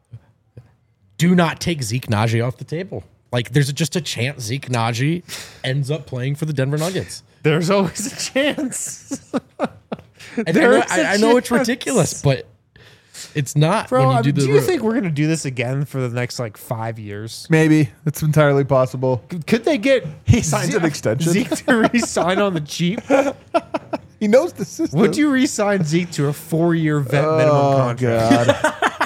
do not take Zeke Naji off the table. Like, there's just a chance Zeke Naji ends up playing for the Denver Nuggets. There's always a chance. And There's I a know it's chance. ridiculous, but it's not. Bro, when I you mean, do do the you think we're going to do this again for the next 5 years? Maybe. It's entirely possible. Could they get He signs an extension. Zeke to re-sign on the cheap? He knows the system. Would you re-sign Zeke to a 4-year vet minimum Oh, contract? God.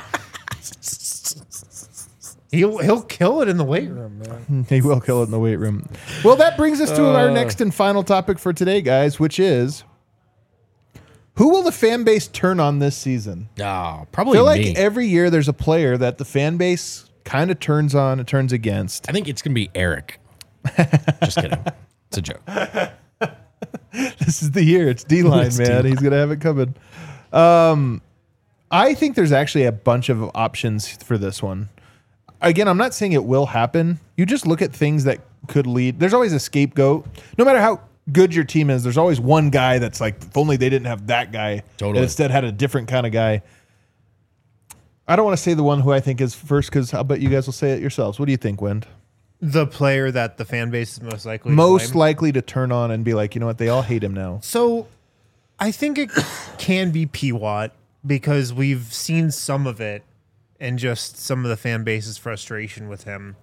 He'll kill it in the weight room, man. He will kill it in the weight room. Well, that brings us to our next and final topic for today, guys, which is who will the fan base turn on this season? Oh, I probably feel me. like every year there's a player that the fan base kind of turns on and turns against. I think it's gonna be Eric. Just kidding. It's a joke. This is the year. It's D-line, It's man. D-line. He's going to have it coming. I think there's actually a bunch of options for this one. Again, I'm not saying it will happen. You just look at things that could lead. There's always a scapegoat. No matter how good your team is, there's always one guy that's like, if only they didn't have that guy. Totally. And instead had a different kind of guy. I don't want to say the one who I think is first because I'll bet you guys will say it yourselves. What do you think, Wind? The player that the fan base is most likely to Most blame. likely to turn on and be like, you know what? They all hate him now. So I think it can be P-Watt because we've seen some of it and just some of the fan base's frustration with him.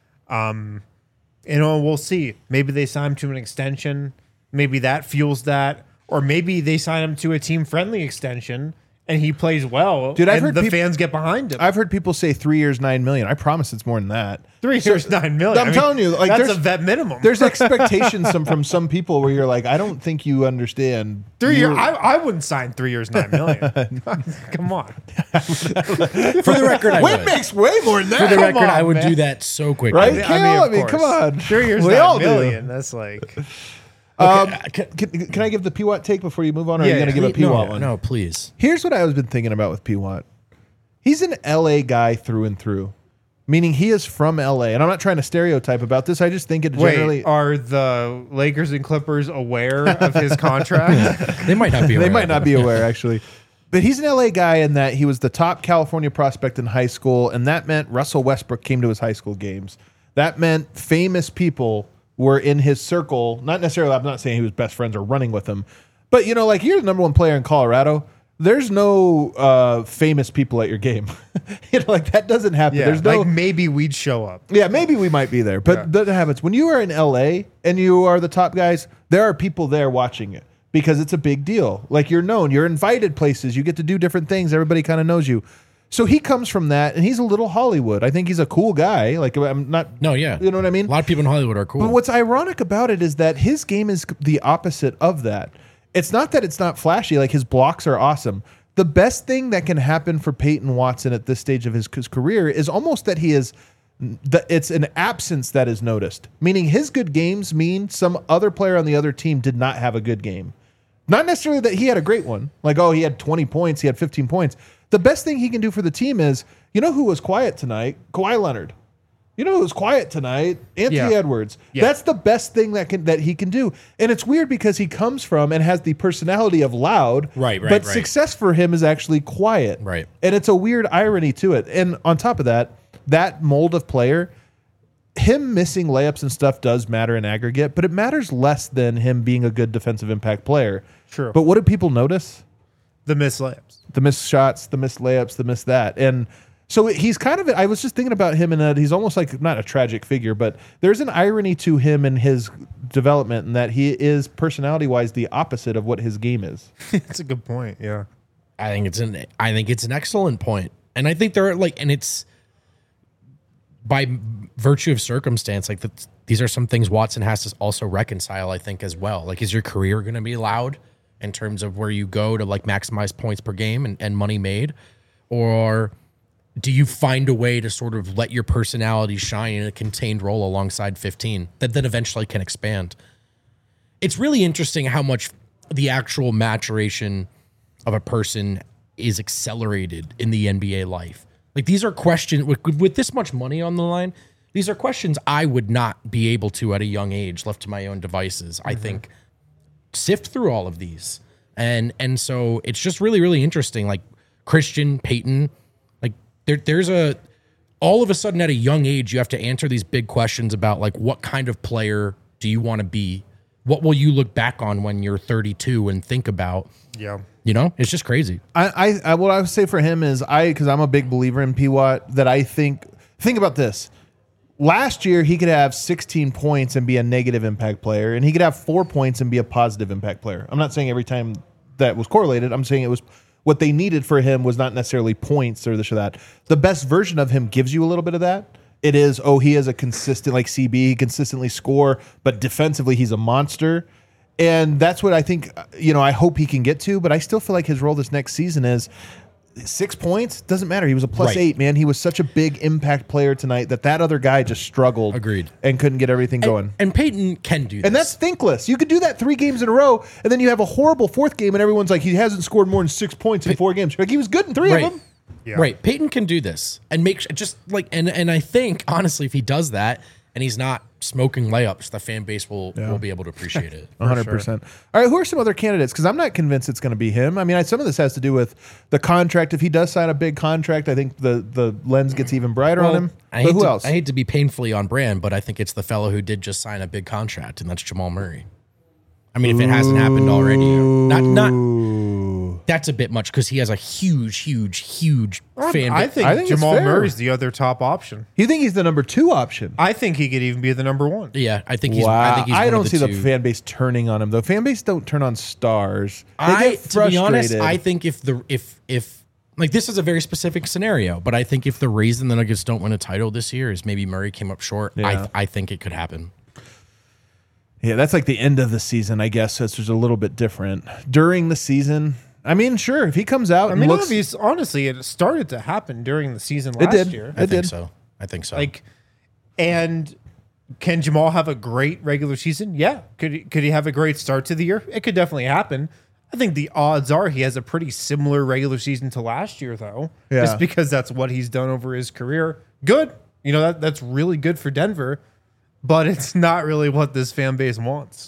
We'll see. Maybe they sign him to an extension. Maybe that fuels that. Or maybe they sign him to a team-friendly extension and he plays well. Dude, I've and heard the peop- fans get behind him. I've heard people say 3 years, $9 million. I promise it's more than that. 3 years, $9 million. I'm telling you, like, that's there's- a vet minimum. There's expectations from some people where you're like, I don't think you understand. 3 years. You- I wouldn't sign 3 years, $9 million. Come on. For the record, I Wait would. makes way more than that. For the record, Come on, I would man. do that so quickly. Right? Kale, I mean, come on. 3 years, We $9 all do. million. That's like... Can I give the P-Watt take before you move on, or are you Yeah, going to give a P-Watt one? No, please. Here's what I've been thinking about with P-Watt. He's an LA guy through and through, meaning he is from LA. And I'm not trying to stereotype about this. I just think it generally... Wait, are the Lakers and Clippers aware of his contract? They might not be. They aware might of not it. be aware, actually. But he's an LA guy in that he was the top California prospect in high school, and that meant Russell Westbrook came to his high school games. That meant famous people were in his circle. Not necessarily, I'm not saying he was best friends or running with him, but, like, you're the number one player in Colorado. There's no famous people at your game. Like, that doesn't happen. Yeah, There's no... like maybe we'd show up. Yeah, maybe we might be there, but that happens. When you are in LA and you are the top guys, there are people there watching it because it's a big deal. Like, you're known, you're invited places, you get to do different things. Everybody kind of knows you. So he comes from that, and he's a little Hollywood. I think he's a cool guy. Like, I'm not. No, yeah. You know what I mean? A lot of people in Hollywood are cool. But what's ironic about it is that his game is the opposite of that. It's not that it's not flashy. Like, his blocks are awesome. the best thing that can happen for Peyton Watson at this stage of his career is almost that he is it's an absence that is noticed, meaning his good games mean some other player on the other team did not have a good game. Not necessarily that he had a great one, like, oh, he had 20 points, he had 15 points. The best thing he can do for the team is, you know who was quiet tonight? Kawhi Leonard. You know who was quiet tonight? Anthony Edwards. Yeah. That's the best thing that he can do. And it's weird because he comes from and has the personality of loud, but success for him is actually quiet. Right. And it's a weird irony to it. And on top of that, that mold of player, him missing layups and stuff does matter in aggregate, but it matters less than him being a good defensive impact player. True. But what do people notice? The missed layups. The missed shots, the missed layups, the missed that. And so he's kind of, I was just thinking about him in that he's almost like, not a tragic figure, but there's an irony to him and his development in that he is personality-wise the opposite of what his game is. That's a good point, yeah. I think it's an excellent point. And I think there are and it's by virtue of circumstance, these are some things Watson has to also reconcile, I think, as well. Like, is your career going to be loud in terms of where you go to maximize points per game and money made? Or do you find a way to sort of let your personality shine in a contained role alongside 15 that then eventually can expand? It's really interesting how much the actual maturation of a person is accelerated in the NBA life. Like, these are questions with this much money on the line. These are questions I would not be able to at a young age, left to my own devices. I think sift through all of these, and so it's just really, really interesting. Like Christian, Peyton, like there's all of a sudden at a young age you have to answer these big questions about like what kind of player do you want to be? What will you look back on when you're 32 and think about? Yeah. You know, it's just crazy. I what I would say for him is because I'm a big believer in P-Watt, that I think about this. Last year, he could have 16 points and be a negative impact player, and he could have 4 points and be a positive impact player. I'm not saying every time that was correlated. I'm saying it was what they needed for him was not necessarily points or this or that. The best version of him gives you a little bit of that. It is, he is a consistent, like CB, he consistently score, but defensively he's a monster. And that's what I think, I hope he can get to, but I still feel like his role this next season is 6 points. Doesn't matter. He was a plus 8, man. He was such a big impact player tonight that other guy just struggled. Agreed. And couldn't get everything going. And Peyton can do this. And that's thinkless. You could do that 3 games in a row, and then you have a horrible 4th game, and everyone's like, he hasn't scored more than 6 points in 4 games. Like, he was good in 3 of them. Yeah. Right. Peyton can do this and and I think, honestly, if he does that and he's not smoking layups, the fan base will be able to appreciate it. 100%. Sure. All right, who are some other candidates? Because I'm not convinced it's going to be him. I mean, some of this has to do with the contract. If he does sign a big contract, I think the lens gets even brighter on him. Who else? I hate to be painfully on brand, but I think it's the fellow who did just sign a big contract, and that's Jamal Murray. I mean, if it hasn't happened already, not that's a bit much because he has a huge fan base. I think Jamal Murray's the other top option. You think he's the number 2 option? I think he could even be the number 1. Yeah, I think he's. Wow. I don't see the fan base turning on him though. Fan base don't turn on stars. They get frustrated. To be honest, I think if this is a very specific scenario, but I think if the reason the Nuggets don't win a title this year is maybe Murray came up short, I think it could happen. Yeah, that's like the end of the season, I guess. So it's just a little bit different. During the season, I mean, sure, if he comes out and looks... honestly, it started to happen during the season last year. I think so. And can Jamal have a great regular season? Yeah. Could he have a great start to the year? It could definitely happen. I think the odds are he has a pretty similar regular season to last year, though. Yeah. Just because that's what he's done over his career. Good. That's really good for Denver. But it's not really what this fan base wants.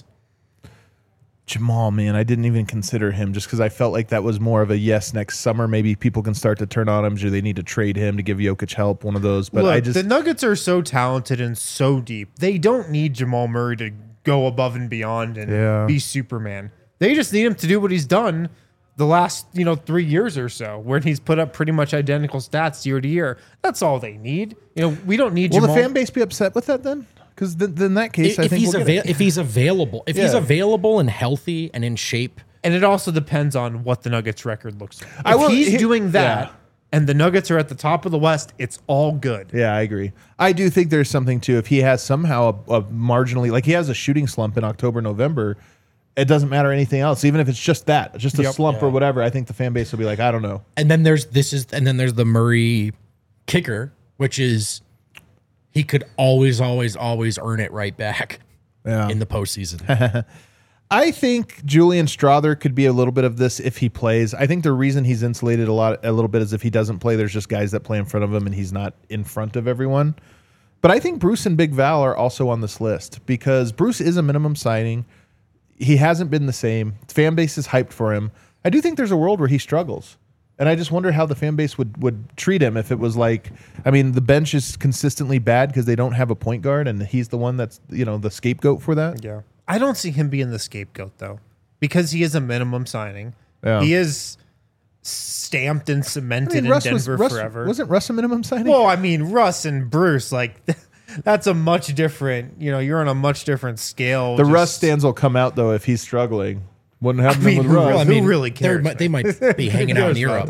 Jamal, man, I didn't even consider him just because I felt like that was more of a yes next summer. Maybe people can start to turn on him. Do they need to trade him to give Jokic help? One of those. But look, the Nuggets are so talented and so deep. They don't need Jamal Murray to go above and beyond and be Superman. They just need him to do what he's done the last 3 years or so, where he's put up pretty much identical stats year to year. That's all they need. We don't need Jamal. Will the fan base be upset with that then? Because in that case, I think if he's available, he's available and healthy and in shape, and it also depends on what the Nuggets' record looks like. If he's doing that, and the Nuggets are at the top of the West, it's all good. Yeah, I agree. I do think there's something too. If he has somehow a marginally, like he has a shooting slump in October, November, it doesn't matter anything else. Even if it's just that, just a Yep. slump or whatever, I think the fan base will be like, I don't know. And then there's the Murray kicker, which is he could always earn it right back in the postseason. I think Julian Strother could be a little bit of this if he plays. I think the reason he's insulated a little bit is if he doesn't play, there's just guys that play in front of him and he's not in front of everyone. But I think Bruce and Big Val are also on this list because Bruce is a minimum signing. He hasn't been the same. Fan base is hyped for him. I do think there's a world where he struggles. And I just wonder how the fan base would treat him if it was like, I mean, the bench is consistently bad because they don't have a point guard and he's the one that's, the scapegoat for that. Yeah. I don't see him being the scapegoat, though, because he is a minimum signing. Yeah. He is stamped and cemented in Denver forever. Wasn't Russ a minimum signing? Well, I mean, Russ and Bruce, like, that's a much different, you're on a much different scale. The Russ stands will come out, though, if he's struggling. Wouldn't happen with Russ. Who really cares? They might be hanging out in Europe,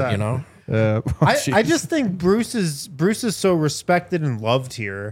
I just think Bruce is so respected and loved here.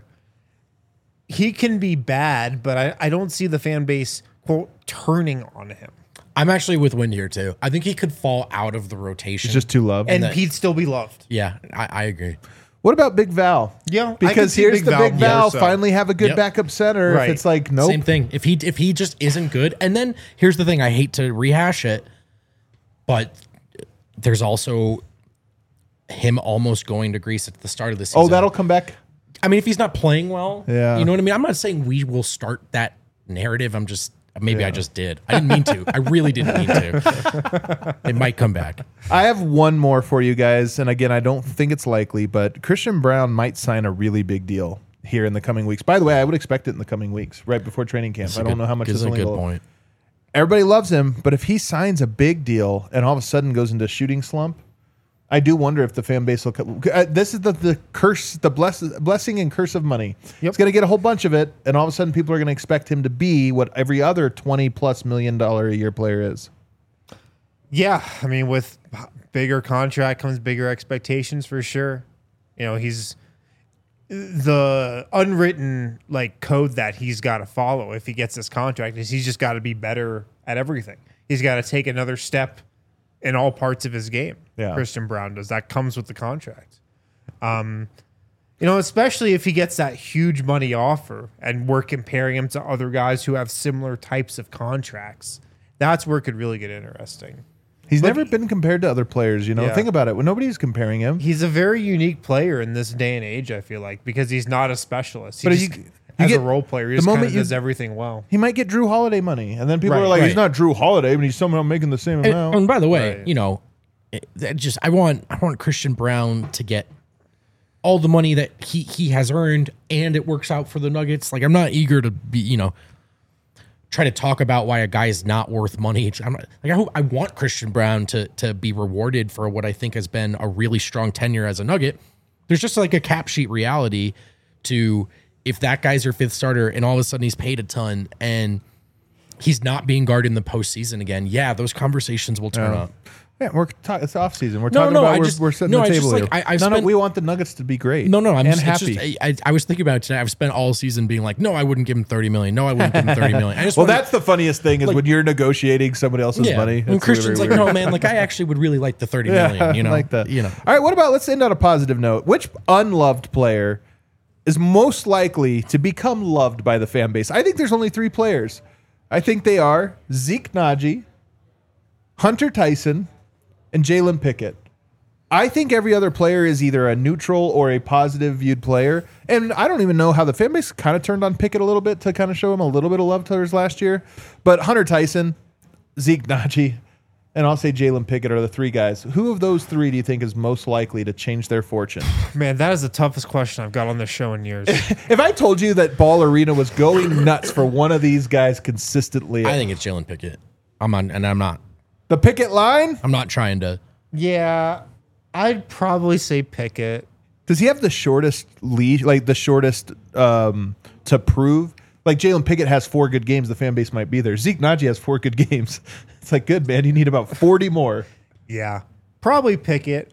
He can be bad, but I don't see the fan base, quote, turning on him. I'm actually with Wind here, too. I think he could fall out of the rotation. He's just too loved. And he'd still be loved. Yeah, I agree. What about Big Val? Yeah, because here's the Big Val finally have a good backup center. Right. If it's like, nope. Same thing. If he just isn't good. And then here's the thing. I hate to rehash it, but there's also him almost going to Greece at the start of the season. Oh, that'll come back? I mean, if he's not playing well, yeah. You know what I mean? I'm not saying we will start that narrative. I just did. I didn't mean to. I really didn't mean to. It might come back. I have one more for you guys. And again, I don't think it's likely, but Christian Braun might sign a really big deal here in the coming weeks. By the way, I would expect it in the coming weeks, right before training camp. I don't know how much is a good point. Everybody loves him, but if he signs a big deal and all of a sudden goes into a shooting slump, I do wonder if the fan base will. This is the curse, the blessing and curse of money. Yep. He's going to get a whole bunch of it, and all of a sudden, people are going to expect him to be what every other $20+ million a year player is. Yeah, I mean, with bigger contract comes bigger expectations for sure. He's the unwritten code that he's got to follow if he gets this contract is he's just got to be better at everything. He's got to take another step in all parts of his game. Yeah. Christian Braun does. That comes with the contract. Especially if he gets that huge money offer and we're comparing him to other guys who have similar types of contracts. That's where it could really get interesting. He's never been compared to other players, Yeah. Think about it. When nobody's comparing him. He's a very unique player in this day and age, I feel like, because he's not a specialist. He But just, you as get- a role player, he the just kind moment of you- does everything well. He might get Drew Holiday money, and then people Right, are like, right. "He's not Drew Holiday, but he's somehow making the same amount." And by the way, Right. I want Christian Braun to get all the money that he has earned, and it works out for the Nuggets. I'm not eager to be, try to talk about why a guy is not worth money. I want Christian Braun to be rewarded for what I think has been a really strong tenure as a Nugget. There's just a cap sheet reality to if that guy's your fifth starter and all of a sudden he's paid a ton and he's not being guarded in the postseason again. Yeah, those conversations will turn up. Yeah, it's off season. We're talking about we're setting the table here. We want the Nuggets to be great. No, I'm and just happy. I was thinking about it today. I've spent all season being like, no, I wouldn't give him $30 million. No, I wouldn't give him $30 million. That's the funniest thing is when you're negotiating somebody else's money. And Christian's really like, weird. no, man, I actually would really like the $30 million. I like that. All right, what about, let's end on a positive note. Which unloved player is most likely to become loved by the fan base? I think there's only 3 players. I think they are Zeke Naji, Hunter Tyson, and Jalen Pickett. I think every other player is either a neutral or a positive viewed player. And I don't even know how the fan base kind of turned on Pickett a little bit to kind of show him a little bit of love towards last year. But Hunter Tyson, Zeke Naji, and I'll say Jalen Pickett are the 3 guys. Who of those 3 do you think is most likely to change their fortune? Man, that is the toughest question I've got on this show in years. If I told you that Ball Arena was going nuts for one of these guys consistently. I think it's Jalen Pickett. I'm not. The Pickett line? I'm not trying to. Yeah, I'd probably say Pickett. Does he have the shortest leash, the shortest to prove? Jalen Pickett has 4 good games, the fan base might be there. Zeke Naji has 4 good games. It's good, man. You need about 40 more. Yeah, probably Pickett.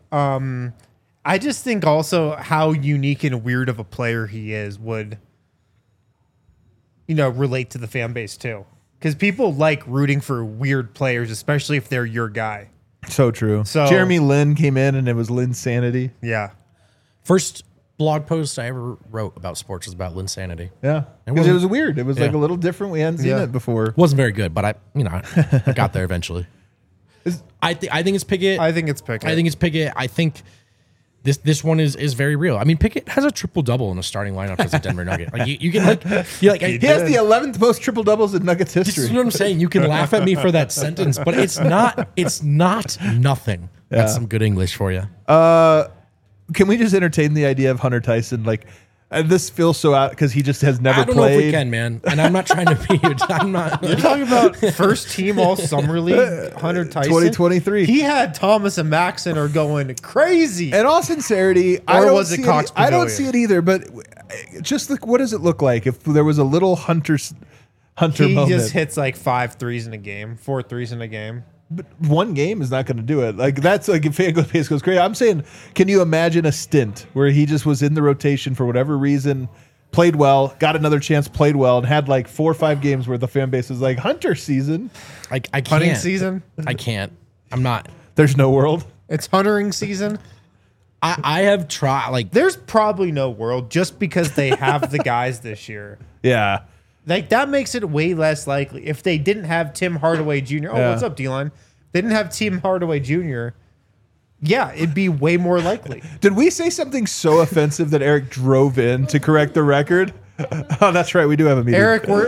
I just think also how unique and weird of a player he is would, relate to the fan base too. because people like rooting for weird players, especially if they're your guy. So true. So- Jeremy Lin came in and it was Linsanity. Yeah. First blog post I ever wrote about sports was about Linsanity. Yeah. Because it wasn't- was weird. It was like Yeah. a little different. We hadn't seen Yeah. it before. Wasn't very good, but I got there eventually. I think it's Pickett. I think it's Pickett. I think it's Pickett. I think this one is very real. I mean, Pickett has a triple double in a starting lineup as a Denver Nugget. Like you can you're like He has the 11th most triple doubles in Nuggets this history. is what I'm saying. You can laugh at me for that sentence, but it's not nothing. That's some good English for you. Can we just entertain the idea of Hunter Tyson? Like, and this feels so out because he just has never I don't played. know if we can, man. And I'm not trying to be. I'm not. You're talking about first team all summer league, Hunter Tyson. 2023. He had Thomas and Maxon are going crazy. In all sincerity, I Or don't was it see Cox I don't Pavilion? see it either. But just look, what does it look like if there was a little Hunter He moment? just hits like 5 threes in a game, 4 threes in a game. But one game is not going to do it. Like that's like if fan pace goes crazy. I'm saying, can you imagine a stint where he just was in the rotation for whatever reason, played well, got another chance, played well, and had like 4 or 5 games where the fan base is like Hunter season. I can't. Hunting season. I can't. I'm not. There's no world. It's huntering season. I have tried. Like There's probably no world just because they have the guys this year. Yeah. Like that makes it way less likely. If they didn't have Tim Hardaway Jr. Oh, Yeah. what's up, D-line? They didn't have Tim Hardaway Jr. Yeah, it'd be way more likely. Did we say something so offensive that Eric drove in to correct the record? Oh, that's right. We do have a meeting. Eric, we're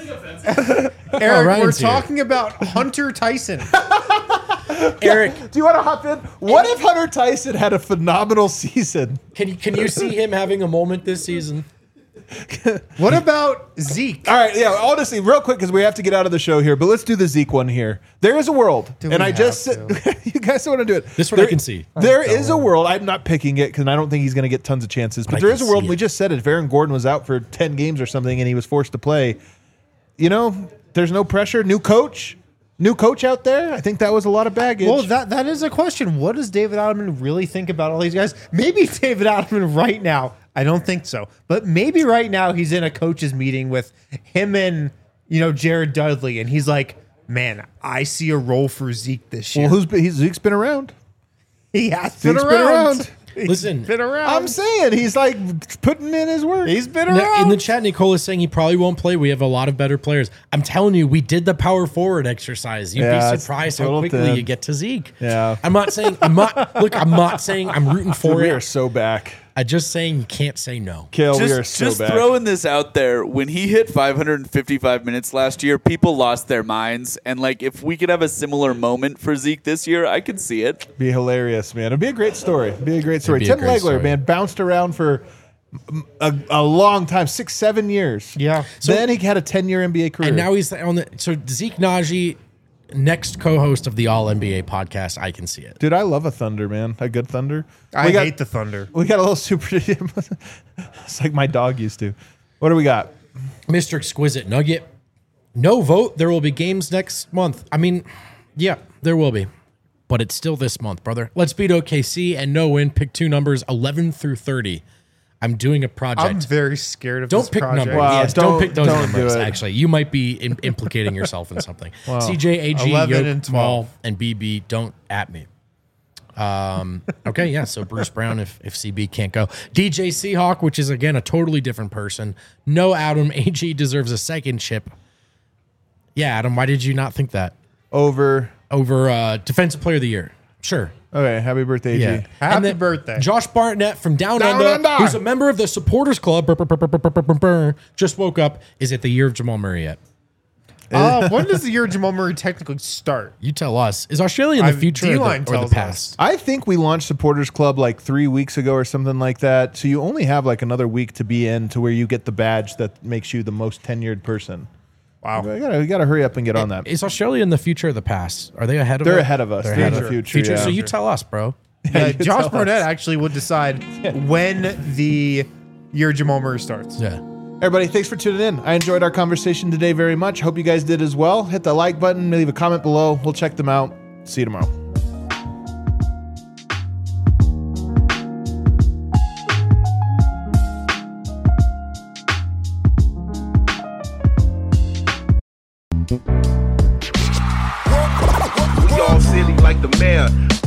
Eric, Ryan's we're here. talking about Hunter Tyson. Eric, do you want to hop in? What if Hunter Tyson had a phenomenal season? can you see him having a moment this season? What about Zeke? All right, yeah, honestly, real quick, because we have to get out of the show here, but let's do the Zeke one here. There is a world, Do and we I just have you guys don't want to do it. This one I can see. There is a world. I'm not picking it because I don't think he's going to get tons of chances, but I there can is a world. see We it. just said it. If Aaron Gordon was out for 10 games or something and he was forced to play, you know, there's no pressure. New coach out there. I think that was a lot of baggage. Well, that is a question. What does David Adelman really think about all these guys? Maybe David Adelman right now. I don't think so, but maybe right now he's in a coaches meeting with him and Jared Dudley, and he's like, "Man, I see a role for Zeke this year." well, Zeke's been around. He has been Zeke's around. been around. He's Listen, been around. I'm saying he's like putting in his work. He's been Now, around. in the chat, Nicole is saying he probably won't play. We have a lot of better players. I'm telling you, we did the power forward exercise. You'd Yeah, be it's surprised a how little quickly thin. you get to Zeke. Yeah. I'm not saying I'm rooting for we are it. so back. I'm just saying you can't say no. Kill, we are so just back. throwing this out there. When he hit 555 minutes last year, people lost their minds. And like, if we could have a similar moment for Zeke this year, I could see it. Be hilarious, man. It'd be a great story. be a Tim great Legler, story. man, bounced around for a long time, 6-7 years. Yeah. Then he had a 10-year NBA career. And now he's on the Zeke Naji, next co-host of the All NBA podcast. I can see it. dude, I love a Thunder, man. A good Thunder. I hate the Thunder. We got a little super. It's like my dog used to. What do we got? Mr. Exquisite Nugget. No vote. There will be games next month. I mean, yeah, there will be. But it's still this month, brother. Let's beat OKC and no win. Pick 2 numbers, 11 through 30. I'm doing a project. I'm very scared of Don't this pick project. numbers. Wow, Yes, don't don't- pick those don't do numbers. it. Actually, you might be implicating yourself in something. CJ, AG, 11 Yoke, and 12. Maul, and BB, don't at me. Okay, yeah. So Bruce Brown, if CB can't go, DJ Seahawk, which is again a totally different person. No, Adam, AG deserves a second chip. Yeah, Adam, why did you not think that Over. over Defensive Player of the Year? Sure. Okay, happy birthday, Yeah. G. Happy And then birthday. Josh Barnett from Down, Down Under, Under. who's a member of the Supporters Club, just woke up. Is it the year of Jamal Murray yet? When does the year of Jamal Murray technically start? You tell us. Is Australia in the future D-line or the tells us. past? I think we launched Supporters Club like 3 weeks ago or something like that. So you only have like another week to be in to where you get the badge that makes you the most tenured person. Wow. We gotta hurry up and get on that. Is Australia in the future or the past? Are they ahead of They're us? ahead of us. They're in the future. Future. yeah. So you tell us, bro. Yeah, you Josh tell Barnett us. actually would decide when the year Jamal Murray starts. Yeah. Everybody, thanks for tuning in. I enjoyed our conversation today very much. Hope you guys did as well. Hit the like button, leave a comment below. We'll check them out. See you tomorrow. the mayor.